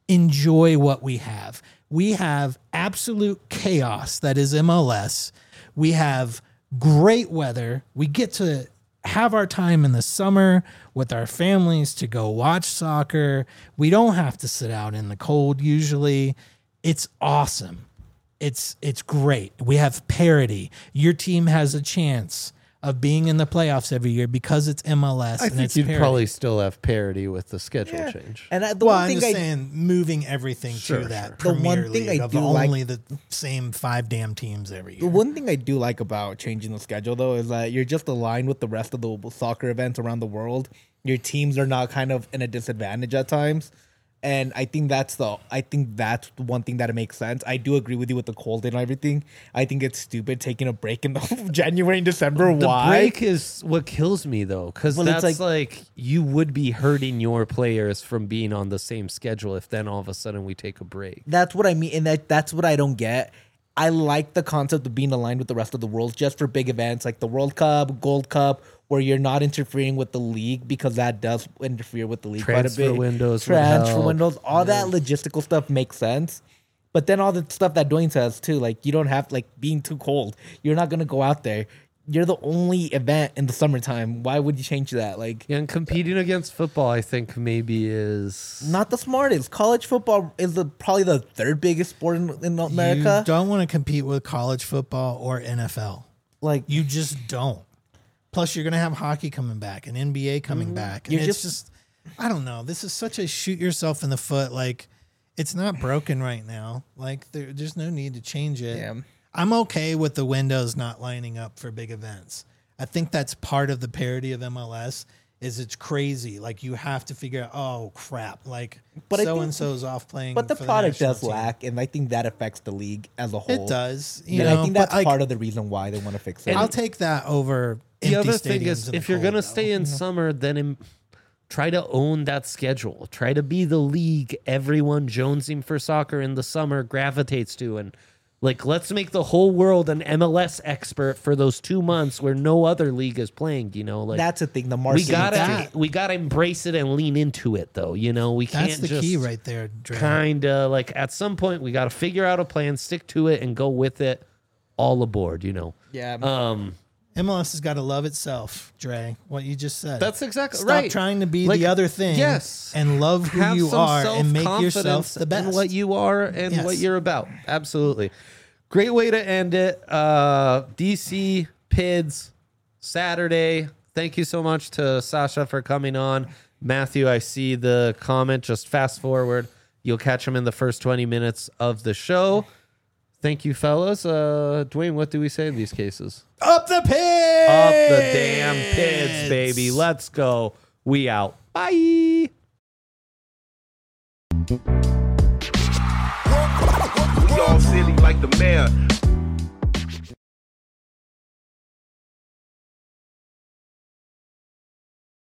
Speaker 3: Enjoy what we have. We have absolute chaos that is M L S. We have great weather. We get to have our time in the summer with our families to go watch soccer. We don't have to sit out in the cold usually. It's awesome. It's it's great. We have parity. Your team has a chance of being in the playoffs every year because it's M L S
Speaker 1: I
Speaker 3: and
Speaker 1: think
Speaker 3: it's
Speaker 1: you'd
Speaker 3: parity.
Speaker 1: probably still have parity with the schedule
Speaker 2: Yeah.
Speaker 1: change.
Speaker 2: And I, the
Speaker 3: Well,
Speaker 2: one
Speaker 3: I'm
Speaker 2: thing
Speaker 3: just
Speaker 2: I,
Speaker 3: saying, moving everything
Speaker 1: Sure,
Speaker 3: to that
Speaker 1: sure.
Speaker 2: The
Speaker 3: Premier
Speaker 2: one thing
Speaker 3: League
Speaker 2: I
Speaker 3: of
Speaker 2: do like-
Speaker 3: only the same five damn teams every
Speaker 2: The
Speaker 3: year.
Speaker 2: one thing I do like about changing the schedule, though, is that you're just aligned with the rest of the soccer events around the world. Your teams are not kind of in a disadvantage at times, and I think that's the I think that's the one thing that makes sense. I do agree with you with the cold and everything. I think it's stupid taking a break in the January and December.
Speaker 1: The
Speaker 2: Why?
Speaker 1: break is what kills me, though, because
Speaker 2: Well, it's
Speaker 1: that's like,
Speaker 2: like-
Speaker 1: you would be hurting your players from being on the same schedule if then all of a sudden we take a break.
Speaker 2: That's what I mean, and that that's what I don't get. I like the concept of being aligned with the rest of the world just for big events like the World Cup, Gold Cup, where you're not interfering with the league because that does interfere with the league
Speaker 1: Transfer
Speaker 2: quite a bit.
Speaker 1: windows would
Speaker 2: transfer
Speaker 1: help.
Speaker 2: windows, all that logistical stuff makes sense. But then all the stuff that Dwayne says too, like you don't have like being too cold. You're not gonna go out there. You're the only event in the summertime. Why would you change that? Like,
Speaker 1: Yeah, and competing against football, I think maybe is
Speaker 2: not the smartest. College football is the probably the third biggest sport in, in America.
Speaker 3: You don't want to compete with college football or N F L.
Speaker 2: Like,
Speaker 3: You just don't. Plus, you're going to have hockey coming back and N B A coming back. And
Speaker 2: You're
Speaker 3: it's
Speaker 2: just-
Speaker 3: just, I don't know. This is such a shoot yourself in the foot. Like, it's not broken right now. Like, there, there's no need to change it.
Speaker 2: Yeah.
Speaker 3: I'm okay with the windows not lining up for big events. I think that's part of the parody of M L S. Is it's crazy. Like, you have to figure out, oh crap, like
Speaker 2: But I
Speaker 3: so
Speaker 2: think-
Speaker 3: and so's off playing.
Speaker 2: But the
Speaker 3: for
Speaker 2: product
Speaker 3: national
Speaker 2: does
Speaker 3: team.
Speaker 2: lack, and I think that affects the league as a whole.
Speaker 3: It does. You
Speaker 2: And
Speaker 3: know,
Speaker 2: I think
Speaker 3: but,
Speaker 2: that's
Speaker 3: like,
Speaker 2: part of the reason why they want to fix it.
Speaker 3: I'll take that over.
Speaker 1: the
Speaker 3: empty
Speaker 1: other thing
Speaker 3: stadiums
Speaker 1: is
Speaker 3: in the
Speaker 1: if you're
Speaker 3: cold,
Speaker 1: gonna
Speaker 3: though.
Speaker 1: stay in summer, then im- try to own that schedule. Try to be the league everyone jonesing for soccer in the summer gravitates to, and Like, let's make the whole world an M L S expert for those two months where no other league is playing. You know, like
Speaker 2: That's the thing. The
Speaker 1: we
Speaker 2: market.
Speaker 1: gotta
Speaker 3: that.
Speaker 1: we gotta embrace it and lean into it, though. You know, we can't
Speaker 3: That's the
Speaker 1: just
Speaker 3: key right there, Dre.
Speaker 1: kind of like at some point we got to figure out a plan, stick to it, and go with it. All aboard, you know.
Speaker 2: Yeah.
Speaker 1: Um,
Speaker 3: M L S has got to love itself, Dre. What you just said.
Speaker 1: that's exactly
Speaker 3: Stop
Speaker 1: right.
Speaker 3: trying to be
Speaker 1: Like,
Speaker 3: the other thing.
Speaker 1: yes.
Speaker 3: And love who
Speaker 1: Have
Speaker 3: you
Speaker 1: some
Speaker 3: are and make yourself
Speaker 1: self-confidence
Speaker 3: the best.
Speaker 1: in what you are and
Speaker 3: Yes.
Speaker 1: what you're about. Absolutely. Great way to end it. Uh, D C P I D S Saturday. Thank you so much to Sasha for coming on. Matthew, I see the comment. Just fast forward. You'll catch him in the first twenty minutes of the show. Thank you, fellas. Uh, Dwayne, what do we say in these cases?
Speaker 3: Up the pit.
Speaker 1: Up the damn Pids, baby. Let's go. We out. Bye.
Speaker 5: We all silly like the mayor.